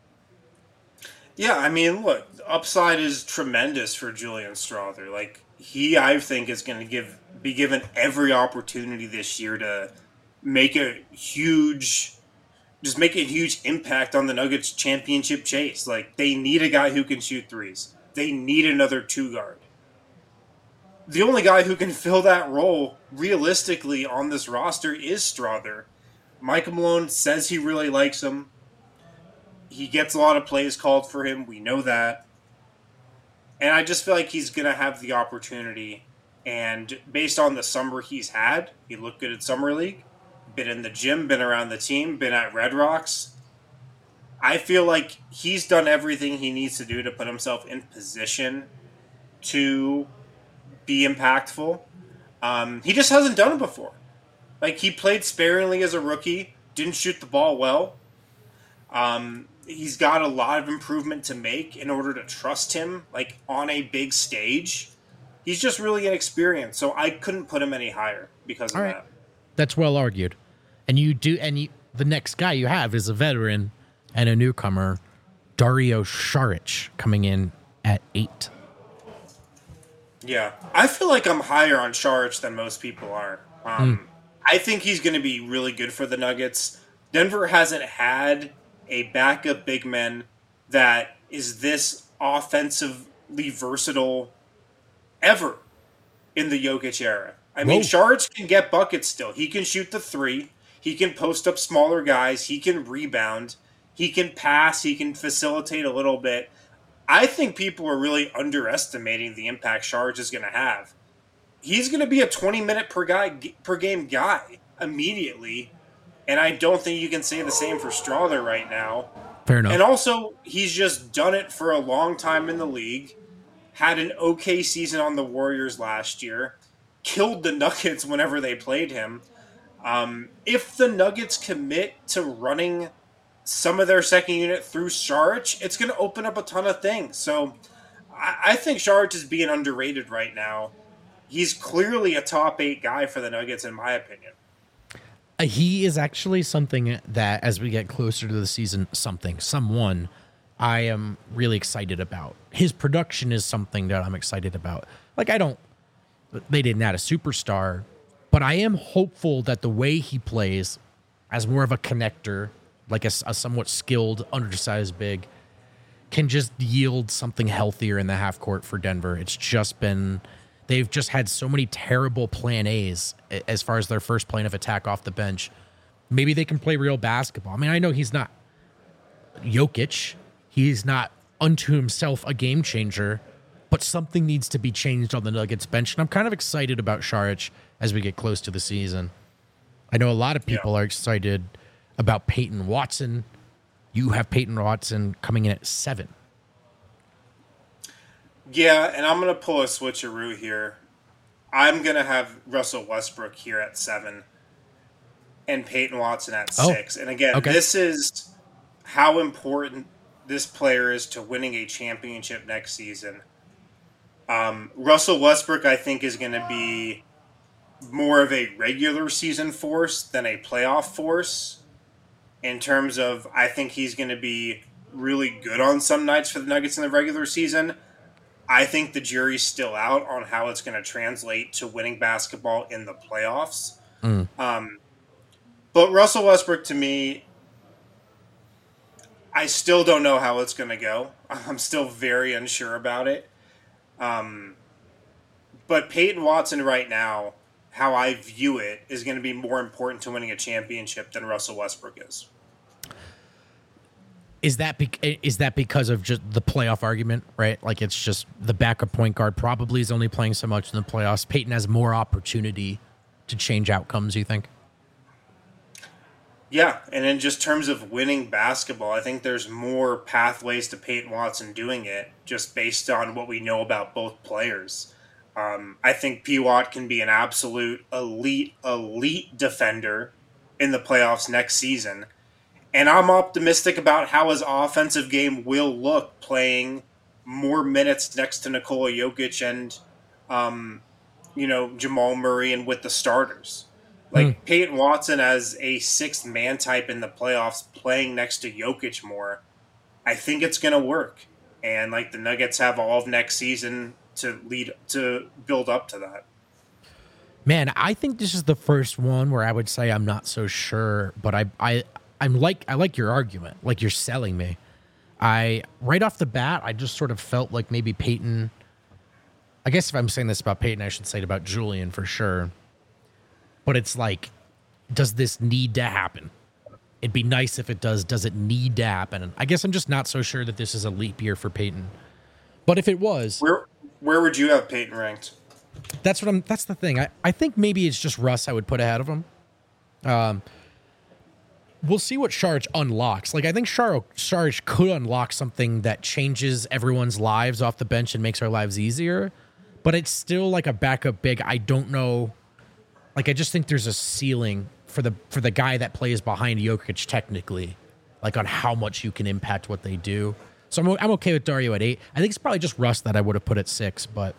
B: Yeah, I mean, look, the upside is tremendous for Julian Strawther. Like, he, I think, is going to give be given every opportunity this year to make a huge, just make a huge impact on the Nuggets championship chase. Like, they need a guy who can shoot threes. They need another two guard. The only guy who can fill that role realistically on this roster is Strawther. Michael Malone says he really likes him. He gets a lot of plays called for him. We know that. And I just feel like he's going to have the opportunity. And based on the summer he's had, he looked good at Summer League, been in the gym, been around the team, been at Red Rocks. I feel like he's done everything he needs to do to put himself in position to be impactful. Um, he just hasn't done it before. Like, he played sparingly as a rookie, didn't shoot the ball well. Um, he's got a lot of improvement to make in order to trust him, like, on a big stage. He's just really inexperienced, so I couldn't put him any higher because of
A: All right.
B: that.
A: That's well argued. And you do, and you, the next guy you have is a veteran and a newcomer, Dario Saric, coming in at eight.
B: Yeah, I feel like I'm higher on Saric than most people are. Um, mm. I think he's going to be really good for the Nuggets. Denver hasn't had a backup big man that is this offensively versatile ever in the Jokic era. I mean,
A: Whoa.
B: Saric can get buckets still. He can shoot the three. He can post up smaller guys. He can rebound. He can pass. He can facilitate a little bit. I think people are really underestimating the impact Saric is going to have. He's going to be a twenty-minute per guy per game guy immediately, and I don't think you can say the same for Strawther right now.
A: Fair enough.
B: And also, he's just done it for a long time in the league, had an okay season on the Warriors last year, killed the Nuggets whenever they played him. Um, if the Nuggets commit to running some of their second unit through Saric, it's going to open up a ton of things. So I, I think Saric is being underrated right now. He's clearly a top eight guy for the Nuggets, in my opinion.
A: Uh, he is actually something that, as we get closer to the season, something, someone I am really excited about. His production is something that I'm excited about. Like, I don't, they didn't add a superstar, but I am hopeful that the way he plays as more of a connector, like a, a somewhat skilled, undersized big, can just yield something healthier in the half court for Denver. It's just been, they've just had so many terrible plan A's as far as their first plane of attack off the bench. Maybe they can play real basketball. I mean, I know he's not Jokic. He's not unto himself a game changer, but something needs to be changed on the Nuggets bench. And I'm kind of excited about Saric as we get close to the season. I know a lot of people yeah. are excited about Peyton Watson. You have Peyton Watson coming in at seven.
B: Yeah, and I'm going to pull a switcheroo here. I'm going to have Russell Westbrook here at seven and Peyton Watson at
A: Oh,
B: six. And again,
A: okay.
B: this is how important this player is to winning a championship next season. Um, Russell Westbrook, I think, is going to be more of a regular season force than a playoff force in terms of I think he's going to be really good on some nights for the Nuggets in the regular season. I think the jury's still out on how it's going to translate to winning basketball in the playoffs.
A: Mm.
B: Um, but Russell Westbrook, to me, I still don't know how it's going to go. I'm still very unsure about it. Um, but Peyton Watson right now, how I view it, is going to be more important to winning a championship than Russell Westbrook is.
A: Is that be- is that because of just the playoff argument, right? Like it's just the backup point guard probably is only playing so much in the playoffs. Peyton has more opportunity to change outcomes, you think?
B: Yeah, and in just terms of winning basketball, I think there's more pathways to Peyton Watson doing it just based on what we know about both players. Um, I think P. Watt can be an absolute elite, elite defender in the playoffs next season. And I'm optimistic about how his offensive game will look playing more minutes next to Nikola Jokic and, um, you know, Jamal Murray and with the starters. Like
A: Hmm.
B: Peyton Watson as a sixth man type in the playoffs playing next to Jokic more, I think it's going to work. And like the Nuggets have all of next season to lead to build up to that.
A: Man, I think this is the first one where I would say I'm not so sure, but I I I'm like I like your argument, like you're selling me. I right off the bat, I just sort of felt like maybe Peyton. I guess if I'm saying this about Peyton, I should say it about Julian for sure. But it's like, does this need to happen? It'd be nice if it does. Does it need to happen? And I guess I'm just not so sure that this is a leap year for Peyton. But if it was,
B: Where where would you have Peyton ranked?
A: that's what I'm. That's the thing. I, I think maybe it's just Russ I would put ahead of him. Um, we'll see what Sharge unlocks. Like I think Char- Sharge could unlock something that changes everyone's lives off the bench and makes our lives easier. But it's still like a backup big. I don't know. Like I just think there's a ceiling for the for the guy that plays behind Jokic technically, like on how much you can impact what they do. So I'm I'm okay with Dario at eight. I think it's probably just Russ that I would have put at six, but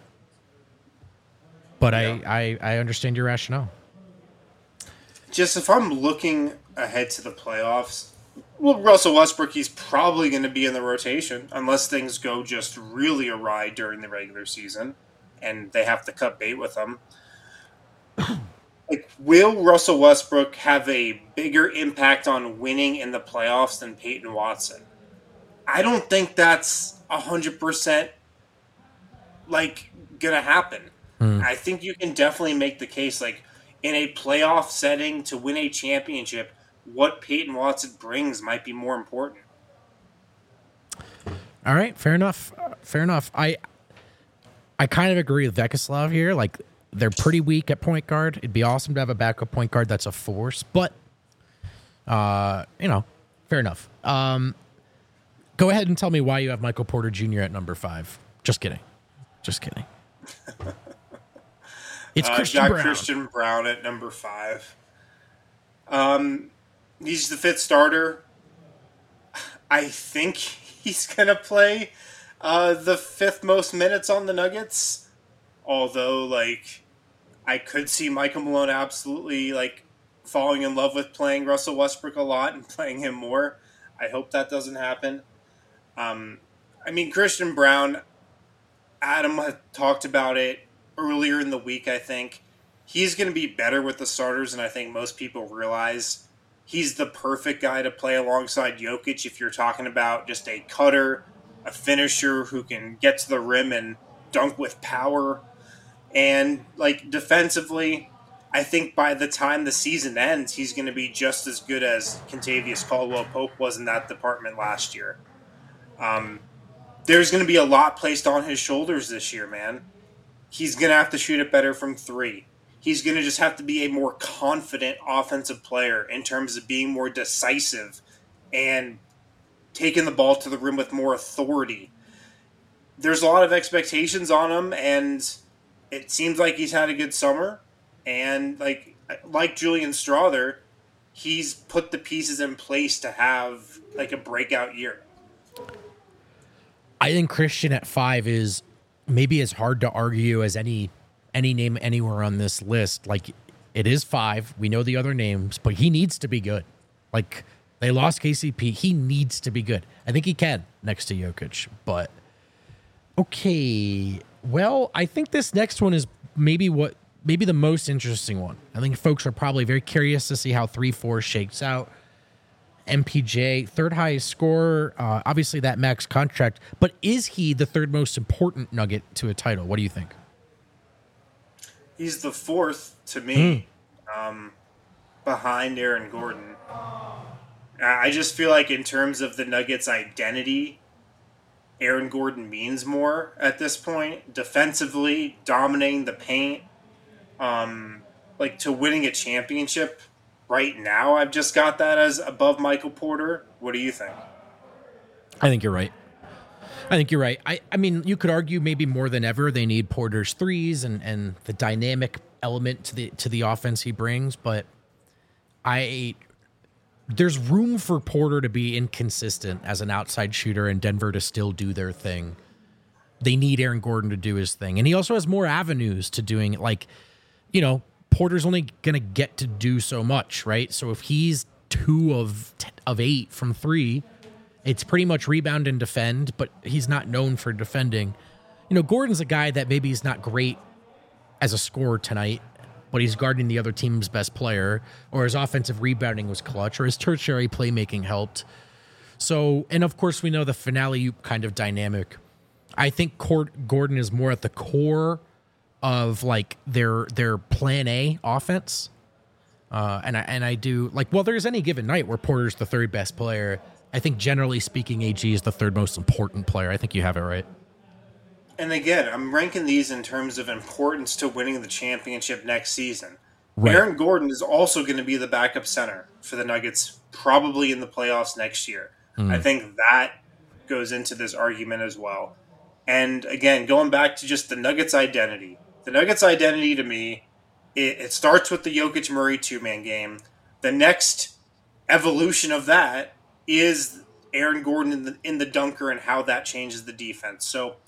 A: but
B: Yeah.
A: I, I I understand your rationale.
B: Just if I'm looking ahead to the playoffs, well, Russell Westbrook, he's probably going to be in the rotation unless things go just really awry during the regular season and they have to cut bait with him. Like, will Russell Westbrook have a bigger impact on winning in the playoffs than Peyton Watson? I don't think that's one hundred percent like going to happen.
A: Hmm.
B: I think you can definitely make the case like in a playoff setting to win a championship, what Peyton Watson brings might be more important.
A: All right, fair enough. Uh, fair enough. I I kind of agree with Vekislav here. Like they're pretty weak at point guard. It'd be awesome to have a backup point guard that's a force, but uh, you know, fair enough. Um, go ahead and tell me why you have Michael Porter Junior at number five. Just kidding. Just kidding. It's
B: Uh,
A: Christian
B: got
A: Brown.
B: Christian Brown at number five. Um, he's the fifth starter. I think he's gonna play uh, the fifth most minutes on the Nuggets. Although, like, I could see Michael Malone absolutely like falling in love with playing Russell Westbrook a lot and playing him more. I hope that doesn't happen. Um, I mean, Christian Brown. Adam had talked about it earlier in the week, I think. He's going to be better with the starters than I think most people realize. He's the perfect guy to play alongside Jokic if you're talking about just a cutter, a finisher who can get to the rim and dunk with power. And, like, defensively, I think by the time the season ends, he's going to be just as good as Kentavious Caldwell-Pope was in that department last year. Um, there's going to be a lot placed on his shoulders this year, man. He's going to have to shoot it better from three. he's going to just have to be a more confident offensive player in terms of being more decisive and taking the ball to the rim with more authority. There's a lot of expectations on him, and it seems like he's had a good summer. And like like Julian Strawther, he's put the pieces in place to have like a breakout year.
A: I think Christian at five is maybe as hard to argue as any any name anywhere on this list. Like, it is five. We know the other names, but he needs to be good. Like, they lost K C P. He needs to be good. I think he can next to Jokic, but okay. Well, I think this next one is maybe what maybe the most interesting one. I think folks are probably very curious to see how three four shakes out. M P J, third highest scorer, uh, obviously that max contract, but is he the third most important Nugget to a title? What do you think?
B: He's the fourth to me, mm. um, behind Aaron Gordon. I just feel like in terms of the Nuggets' identity, Aaron Gordon means more at this point. Defensively, dominating the paint, um, like to winning a championship. Right now, I've just got that as above Michael Porter. What do you think?
A: I think you're right. I think you're right. I, I mean, you could argue maybe more than ever they need Porter's threes and, and the dynamic element to the to the offense he brings, but I there's room for Porter to be inconsistent as an outside shooter and Denver to still do their thing. They need Aaron Gordon to do his thing. And he also has more avenues to doing it. Like, you know, Porter's only going to get to do so much, right? So if he's two of of eight from three, it's pretty much rebound and defend, but he's not known for defending. You know, Gordon's a guy that maybe he's not great as a scorer tonight, but he's guarding the other team's best player, or his offensive rebounding was clutch, or his tertiary playmaking helped. So, and of course, we know the finale kind of dynamic. I think Gordon is more at the core of like their their plan A offense. Uh, and I and I do like, well, there's any given night where Porter's the third best player. I think generally speaking, A G is the third most important player. I think you have it right.
B: And again, I'm ranking these in terms of importance to winning the championship next season.
A: Right.
B: Aaron Gordon is also going to be the backup center for the Nuggets, probably in the playoffs next year. Mm. I think that goes into this argument as well. And again, going back to just the Nuggets' identity, the Nuggets' identity to me, it, it starts with the Jokic-Murray two-man game. The next evolution of that is Aaron Gordon in the, in the dunker and how that changes the defense. So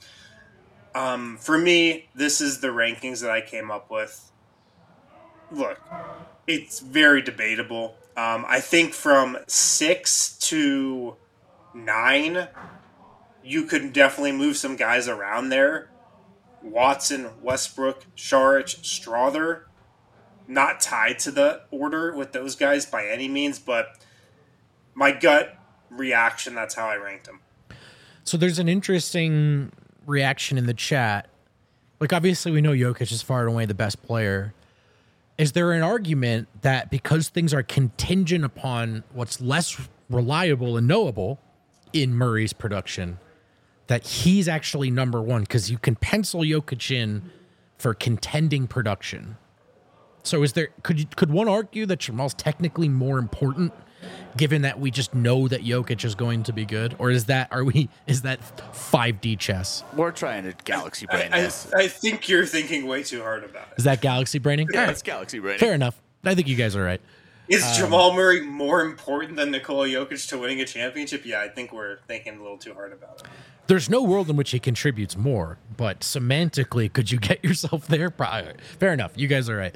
B: um, for me, this is the rankings that I came up with. Look, it's very debatable. Um, I think from six to nine, you could definitely move some guys around there. Watson, Westbrook, Šarić, Strawther, not tied to the order with those guys by any means, but my gut reaction, that's how I ranked them.
A: So there's an interesting reaction in the chat. Like, obviously we know Jokic is far and away the best player. Is there an argument that because things are contingent upon what's less reliable and knowable in Murray's production, that he's actually number one? Because you can pencil Jokic in for contending production. So is there could you, could one argue that Jamal's technically more important, given that we just know that Jokic is going to be good, or is that are we is that five D chess?
C: We're trying to galaxy brain
B: I,
C: this.
B: I, I think you're thinking way too hard about it.
A: Is that galaxy braining?
C: Yeah, it's galaxy braining.
A: Fair enough. I think you guys are right.
B: Is
A: um,
B: Jamal Murray more important than Nikola Jokic to winning a championship? Yeah, I think we're thinking a little too hard about it.
A: There's no world in which he contributes more, but semantically, could you get yourself there? Probably. Fair enough. You guys are right.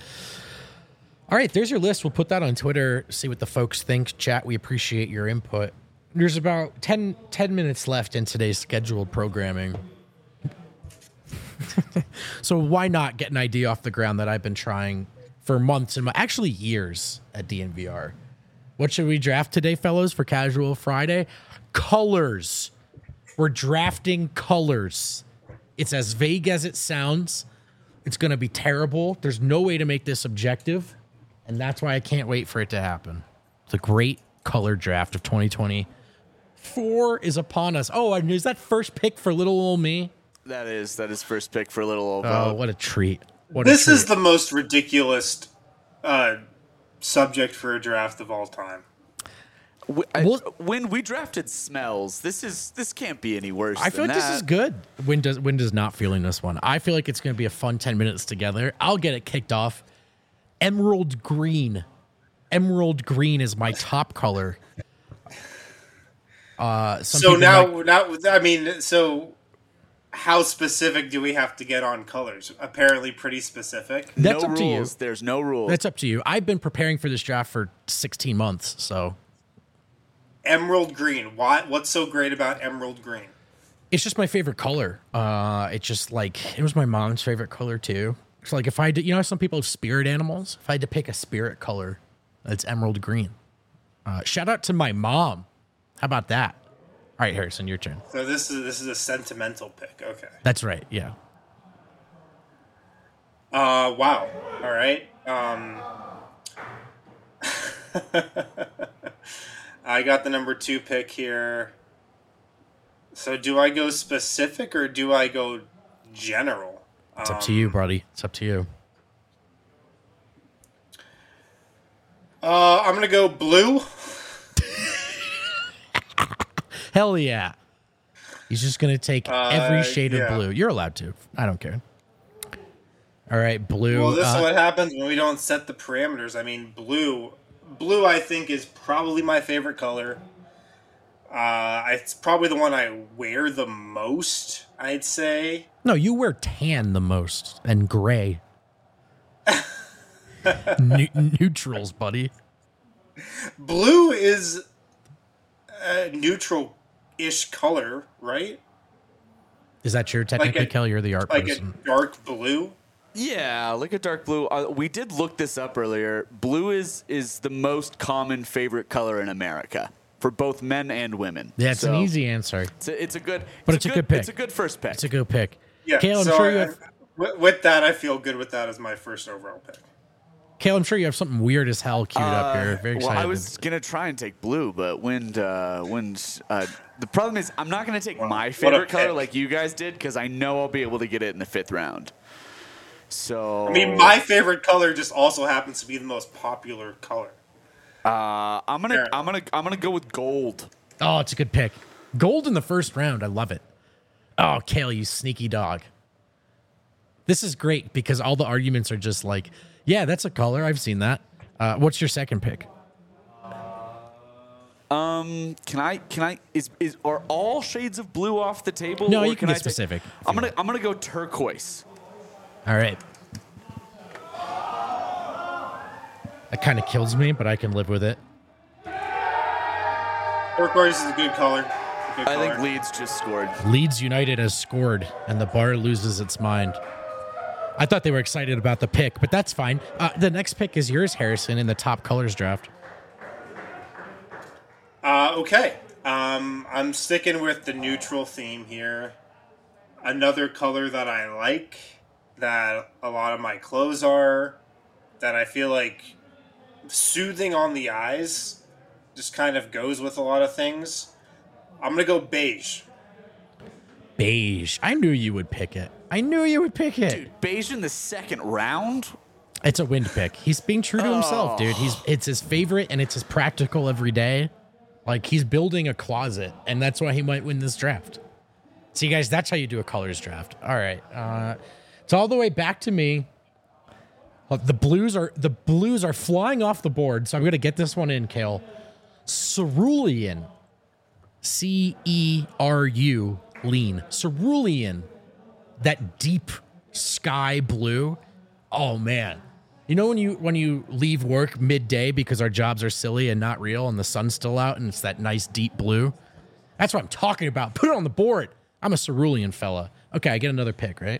A: All right, there's your list. We'll put that on Twitter, see what the folks think. Chat, we appreciate your input. There's about ten, ten minutes left in today's scheduled programming. So why not get an idea off the ground that I've been trying for months and actually years at D N V R. What should we draft today, fellows, for Casual Friday? Colors. We're drafting colors. It's as vague as it sounds. It's going to be terrible. There's no way to make this objective, and that's why I can't wait for it to happen. It's a great color draft of twenty twenty-four is upon us. Oh, and is that first pick for little old me?
C: That is that is first pick for little old
A: Oh,
C: Bo.
A: what a treat. What a
B: This is
A: treat.
B: the most ridiculous uh, subject for a draft of all time.
C: W- I-
A: Well-
C: when we drafted Smells, this is this can't be any worse.
A: I feel
C: than
A: like this
C: that.
A: is good. Win does Win does not feeling this one. I feel like it's going to be a fun ten minutes together. I'll get it kicked off. Emerald green. Emerald green is my top color. Uh, some
B: So
A: people
B: now,
A: might-
B: now, I mean, so how specific do we have to get on colors? Apparently, pretty specific.
A: That's
C: no
A: up to you.
C: rules. There's no rules.
A: That's up to you. I've been preparing for this draft for sixteen months, so
B: Emerald green. Why? What's so great about emerald green?
A: it's just my favorite color. Uh, it's just like it was my mom's favorite color too. It's like if I did, you know, some people have spirit animals. If I had to pick a spirit color, it's emerald green. Uh, shout out to my mom. How about that? All right, Harrison, your turn.
B: So this is this is a sentimental pick. Okay.
A: That's right. Yeah.
B: Uh, wow. All right. Um, I got the number two pick here. So do I go specific or do I go general?
A: It's up to you, buddy. It's up to you.
B: Uh, I'm gonna go blue.
A: Hell yeah. He's just going to take every
B: Uh,
A: shade
B: yeah.
A: of blue. You're allowed to. I don't care. All right, blue.
B: Well, this
A: uh,
B: is what happens when we don't set the parameters. I mean, blue. Blue, I think, is probably my favorite color. Uh, it's probably the one I wear the most, I'd say.
A: No, you wear tan the most and gray. Ne- neutrals, buddy.
B: Blue is a neutral-ish color, right?
A: Is that true? Technically,
B: a-
A: Kelly, you're the art
B: Like
A: person.
B: a dark blue.
C: Yeah, like a dark blue. Uh, we did look this up earlier. Blue is is the most common favorite color in America for both men and women.
A: Yeah, it's
C: So
A: an easy answer.
C: It's a, it's a good,
A: But it's a good pick.
C: It's a good first pick.
A: It's a good pick.
B: Yeah,
A: Kale, I'm
B: so
A: sure you
B: I-
A: have.
B: with, with that, I feel good with that as my first overall pick.
A: Kale, I'm sure you have something weird as hell queued up here. Very
C: well,
A: excited.
C: I was gonna try and take blue, but when uh, when uh, the problem is, I'm not gonna take my
B: a
C: favorite color
B: pick.
C: like you guys did because I know I'll be able to get it in the fifth round. So
B: I mean, my favorite color just also happens to be the most popular color.
C: uh, I'm gonna
B: Fair.
C: I'm gonna I'm gonna go with gold.
A: Oh, it's a good pick. Gold in the first round. I love it. Oh, Kale, you sneaky dog. This is great because all the arguments are just like, yeah, that's a color. I've seen that. Uh, what's your second pick?
C: Um, can I can I is is are all shades of blue off the table?
A: No,
C: or
A: you can
C: I
A: get
C: take-
A: specific if
C: I'm
A: you
C: gonna
A: want.
C: I'm gonna go turquoise.
A: All right. That kind of kills me, but I can live with it.
B: Turquoise is a good color. A good
C: I think
B: color.
C: Leeds just scored.
A: Leeds United has scored, and the bar loses its mind. I thought they were excited about the pick, but that's fine. Uh, the next pick is yours, Harrison, in the top colors draft.
B: Uh, okay. Um, I'm sticking with the neutral theme here. Another color that I like, that a lot of my clothes are, that I feel like soothing on the eyes, just kind of goes with a lot of things. I'm going to go beige.
A: Beige. I knew you would pick it. I knew you would pick it.
C: Dude, beige in the second round?
A: It's a wind pick. He's being true to himself, dude. He's it's his favorite and it's his practical every day. Like he's building a closet, and that's why he might win this draft. See, guys, that's how you do a colors draft. All right, uh, it's all the way back to me. Uh, The blues are the blues are flying off the board, so I'm gonna get this one in, Kale. Cerulean, C E R U, lean. Cerulean, that deep sky blue. Oh man. You know when you when you leave work midday because our jobs are silly and not real and the sun's still out and it's that nice deep blue? That's what I'm talking about. Put it on the board. I'm a cerulean fella. Okay, I get another pick, right?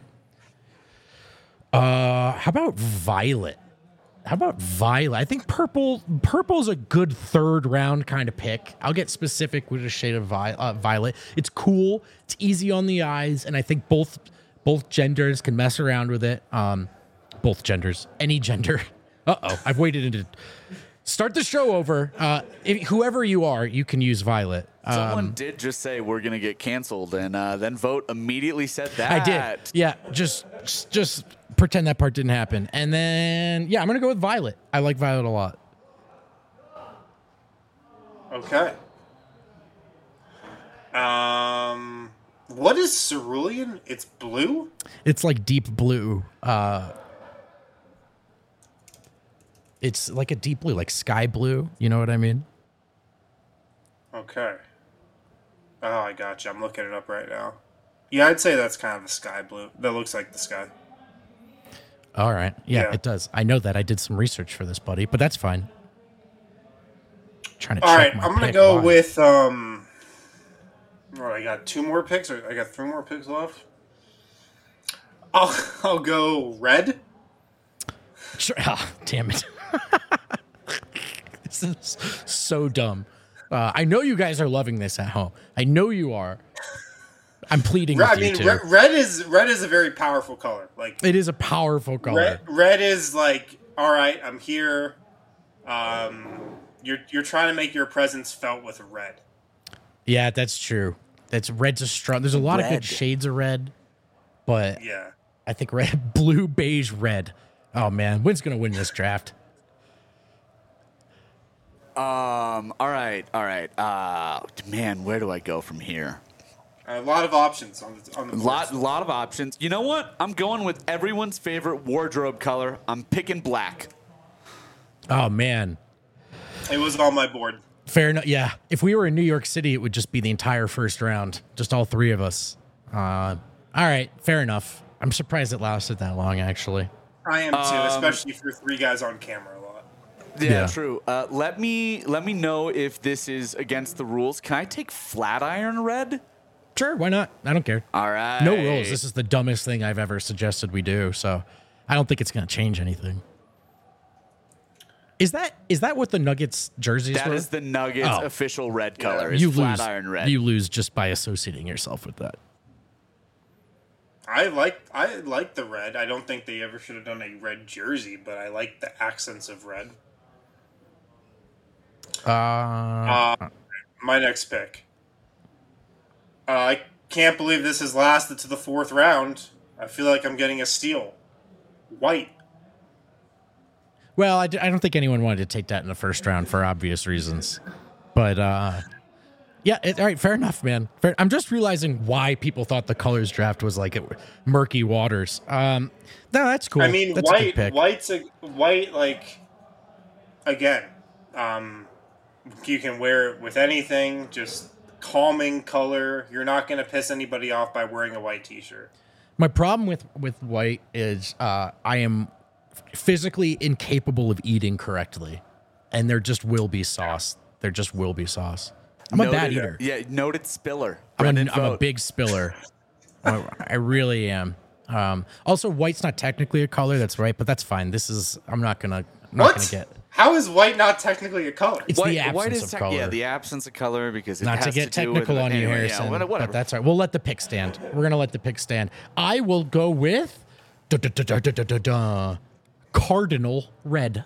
A: Uh, how about violet? How about violet? I think purple purple's a good third round kind of pick. I'll get specific with a shade of vi- uh, violet. It's cool. It's easy on the eyes, and I think both both genders can mess around with it. Um, both genders, any gender. Uh oh, I've waited into start the show over. Uh, if, whoever you are, you can use violet.
C: Someone
A: Um,
C: did just say we're gonna get canceled, and uh, then Vote immediately said that.
A: I did. Yeah, just just, just pretend that part didn't happen. And then, yeah, I'm going to go with violet. I like violet a lot.
B: Okay. Um, what is cerulean? It's blue?
A: It's like deep blue. Uh, it's like a deep blue, like sky blue. You know what I mean?
B: Okay. Oh, I gotcha. I'm looking it up right now. Yeah, I'd say that's kind of the sky blue. That looks like the sky.
A: All right. Yeah,
B: Yeah.
A: it does. I know that. I did some research for this, buddy, but that's fine. Trying to
B: All
A: check
B: right,
A: my
B: I'm gonna
A: pick.
B: go
A: Why?
B: with um. All right, I got two more picks, or I got three more picks left. I'll I'll go red.
A: Sure. Ah, damn it. This is so dumb. Uh, I know you guys are loving this at home. I know you are. I'm pleading
B: Red, I
A: with
B: mean,
A: you too.
B: red, red is red is a very powerful color. Like
A: It is a powerful color.
B: red, red is like, all right, I'm here. Um, you're you're trying to make your presence felt with red.
A: Yeah, that's true. That's red's a strong. There's a lot of
C: Red.
A: good shades of red, but
B: Yeah.
A: I think red, blue, beige, red. Oh man, when's gonna win this draft?
C: Um. All right. All right. Uh. Man, where do I go from here?
B: A lot of options on the on the board.
C: Lot, lot of options. You know what? I'm going with everyone's favorite wardrobe color. I'm picking black.
A: Oh man,
B: It was on my board.
A: fair enough. Yeah, if we were in New York City, it would just be the entire first round, just all three of us. Uh, all right, fair enough. I'm surprised it lasted that long, actually.
B: I am too,
C: Um,
B: especially for three guys on camera a lot.
C: Yeah,
A: Yeah.
C: true. Uh, let me let me know if this is against the rules. Can I take Flatiron red?
A: Sure, why not? I don't care.
C: All right.
A: No rules. This is the dumbest thing I've ever suggested we do, so I don't think it's going to change anything. Is that is that what the Nuggets jerseys
C: That
A: were?
C: is the Nuggets
A: Oh.
C: official red color. Is
A: you lose.
C: Flatiron red.
A: You lose just by associating yourself with that.
B: I like I like the red. I don't think they ever should have done a red jersey, but I like the accents of red.
A: Uh,
B: Uh, my next pick. Uh, I can't believe this has lasted to the fourth round. I feel like I'm getting a steal. White.
A: well, I, d- I don't think anyone wanted to take that in the first round for obvious reasons, but uh, yeah. It, all right, fair enough, man. Fair, I'm just realizing why people thought the colors draft was like it, murky waters. Um, no, that's cool.
B: I mean,
A: that's a good
B: white.
A: pick.
B: White's a white. Like again, um, you can wear it with anything. Just calming color. You're not going to piss anybody off by wearing a white T-shirt.
A: My problem with with white is uh, I am physically incapable of eating correctly, and there just will be sauce. There just will be sauce. I'm a bad
C: Noted-
A: eater.
C: Yeah, noted spiller.
A: I'm,
C: Brendan
A: a, I'm a
C: Vogt.
A: big spiller. I, I really am. Um, also, white's not technically a color. That's right, but that's fine. This is. I'm not gonna. I'm not
B: What?
A: gonna get.
B: How is white not technically a color?
A: It's
C: White,
A: the absence
C: white is
A: of
C: tech-
A: color.
C: Yeah, the absence of color because it
A: Not
C: has
A: to get
C: do with
A: technical
C: it.
A: on you,
C: Anyway,
A: Harrison.
C: Yeah, what- whatever.
A: But that's all right. We'll let the pick stand. We're gonna let the pick stand. I will go with da, da, da, da, da, da, da, da, Cardinal Red.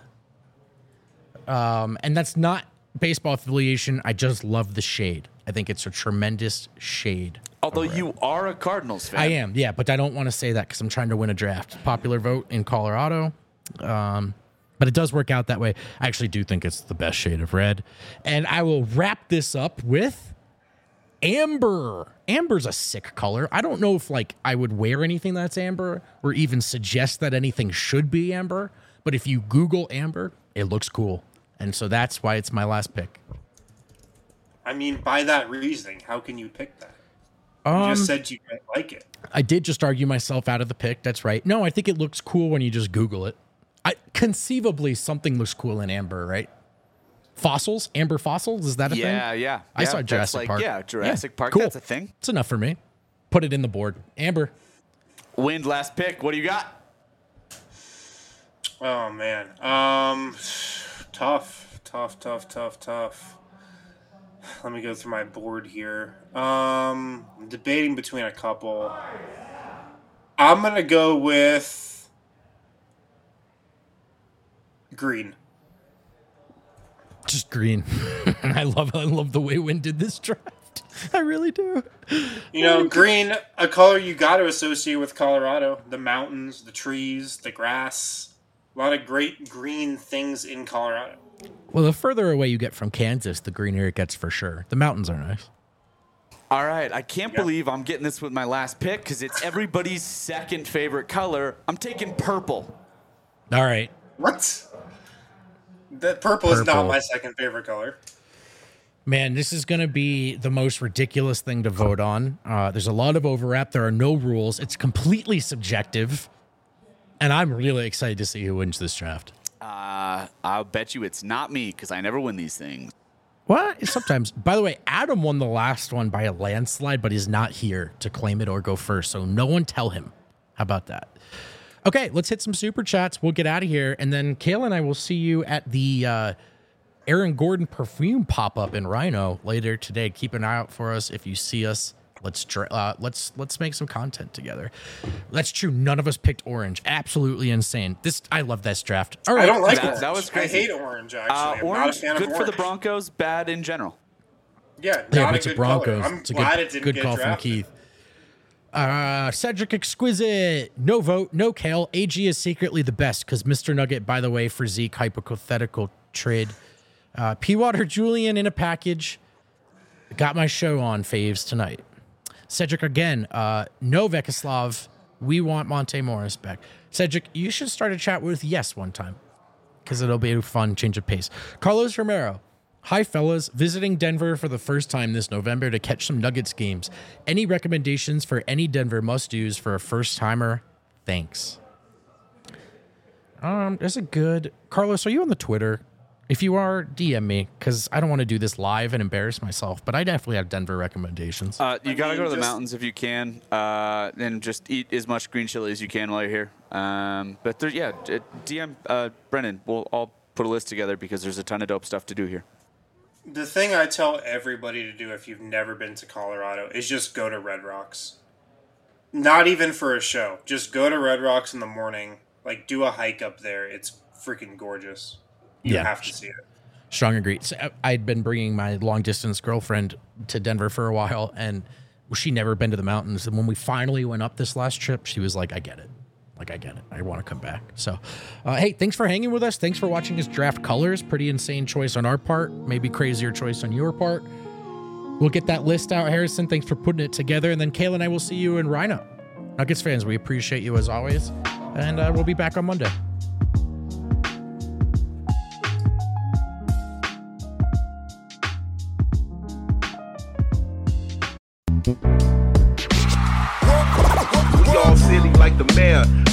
A: Um, and that's not baseball affiliation. I just love the shade. I think it's a tremendous shade.
C: Although you are a Cardinals fan.
A: I am, yeah, but I don't want to say that because I'm trying to win a draft. Popular vote in Colorado. Um, but it does work out that way. I actually do think it's the best shade of red. And I will wrap this up with amber. Amber's a sick color. I don't know if like I would wear anything that's amber or even suggest that anything should be amber. But if you Google amber, it looks cool. And so that's why it's my last pick.
B: I mean, by that reasoning, how can you pick that? You
A: Um,
B: just said you didn't like it.
A: I did just argue myself out of the pick. That's right. No, I think it looks cool when you just Google it. I conceivably something looks cool in amber, right? Fossils, amber fossils, is that a thing?
C: Yeah, yeah.
A: I
C: yeah,
A: saw
C: that's
A: Jurassic
C: like,
A: Park.
C: Yeah, Jurassic Park.
A: Cool.
C: That's a thing.
A: It's enough for me. Put it in the board. Amber.
C: Wind last pick. What do you got?
B: Oh man, um, tough, tough, tough, tough, tough. Let me go through my board here. Um, I'm debating between a couple. I'm gonna go with green.
A: Just green. I love I love the way Wynn did this draft. I really do.
B: You know, green, a color you got to associate with Colorado. The mountains, the trees, the grass. A lot of great green things in Colorado.
A: Well, the further away you get from Kansas, the greener it gets for sure. The mountains are nice.
C: All right, I can't
B: Yep.
C: believe I'm getting this with my last pick because it's everybody's second favorite color. I'm taking purple.
A: All right.
B: What? That purple, is
A: Purple.
B: not my second favorite color.
A: Man, this is going to be the most ridiculous thing to vote on. Uh, there's a lot of overlap. There are no rules. It's completely subjective. And I'm really excited to see who wins this draft.
C: Uh, I'll bet you it's not me because I never win these things.
A: What? Sometimes. By the way, Adam won the last one by a landslide, but he's not here to claim it or go first. So no one tell him. How about that? Okay, let's hit some super chats. We'll get out of here. And then Kayla and I will see you at the uh, Aaron Gordon perfume pop-up in Rhino later today. Keep an eye out for us. If you see us, let's dra- uh, let's let's make some content together. That's true. None of us picked orange. Absolutely insane. This I love this draft. All right.
B: I don't like
C: That-
B: orange.
C: that was
B: I
C: crazy.
B: hate orange, actually.
C: Uh,
B: I'm not a
C: orange,
B: fan
C: good
B: of
C: for the
B: orange.
C: Broncos, bad in general.
B: Yeah,
A: Yeah,
B: not
A: but
B: a
A: it's the
B: good
A: Broncos.
B: color. I'm
A: It's a
B: glad
A: good,
B: it didn't
A: good
B: get
A: call from
B: drafted.
A: Keith. Uh, Cedric Exquisite, no vote, no Kale. A G is secretly the best because Mister Nugget, by the way, for Zeke, hypothetical trade. Uh, P. Water Julian in a package. Got my show on faves tonight. Cedric again, uh, no Vekislav. We want Monte Morris back. Cedric, you should start a chat with Yes one time because it'll be a fun change of pace. Carlos Romero. Hi, fellas. Visiting Denver for the first time this November to catch some Nuggets games. Any recommendations for any Denver must-dos for a first-timer? Thanks. Um, there's a good... Carlos, are you on the Twitter? If you are, D M me, because I don't want to do this live and embarrass myself, but I definitely have Denver recommendations.
C: Uh, you
B: I
C: got to
B: mean,
C: go to the
B: just-
C: mountains if you can, uh, and just eat as much green chili as you can while you're here. Um, but there, yeah, d- D M uh, Brennan. We'll all put a list together because there's a ton of dope stuff to do here.
B: The thing I tell everybody to do if you've never been to Colorado is just go to Red Rocks. Not even for a show. Just go to Red Rocks in the morning. Like, do a hike up there. It's freaking gorgeous. You
A: Yeah.
B: have to see it.
A: Strong agree. So I- I'd been bringing my long-distance girlfriend to Denver for a while, and she never been to the mountains. And when we finally went up this last trip, she was like, I get it. Like, I get it. I want to come back. So, uh, hey, thanks for hanging with us. Thanks for watching us draft colors. Pretty insane choice on our part. Maybe crazier choice on your part. We'll get that list out, Harrison. Thanks for putting it together. And then Kayla and I will see you in Rhino. Nuggets fans, we appreciate you as always. And uh, we'll be back on Monday.
F: We all silly like the mayor.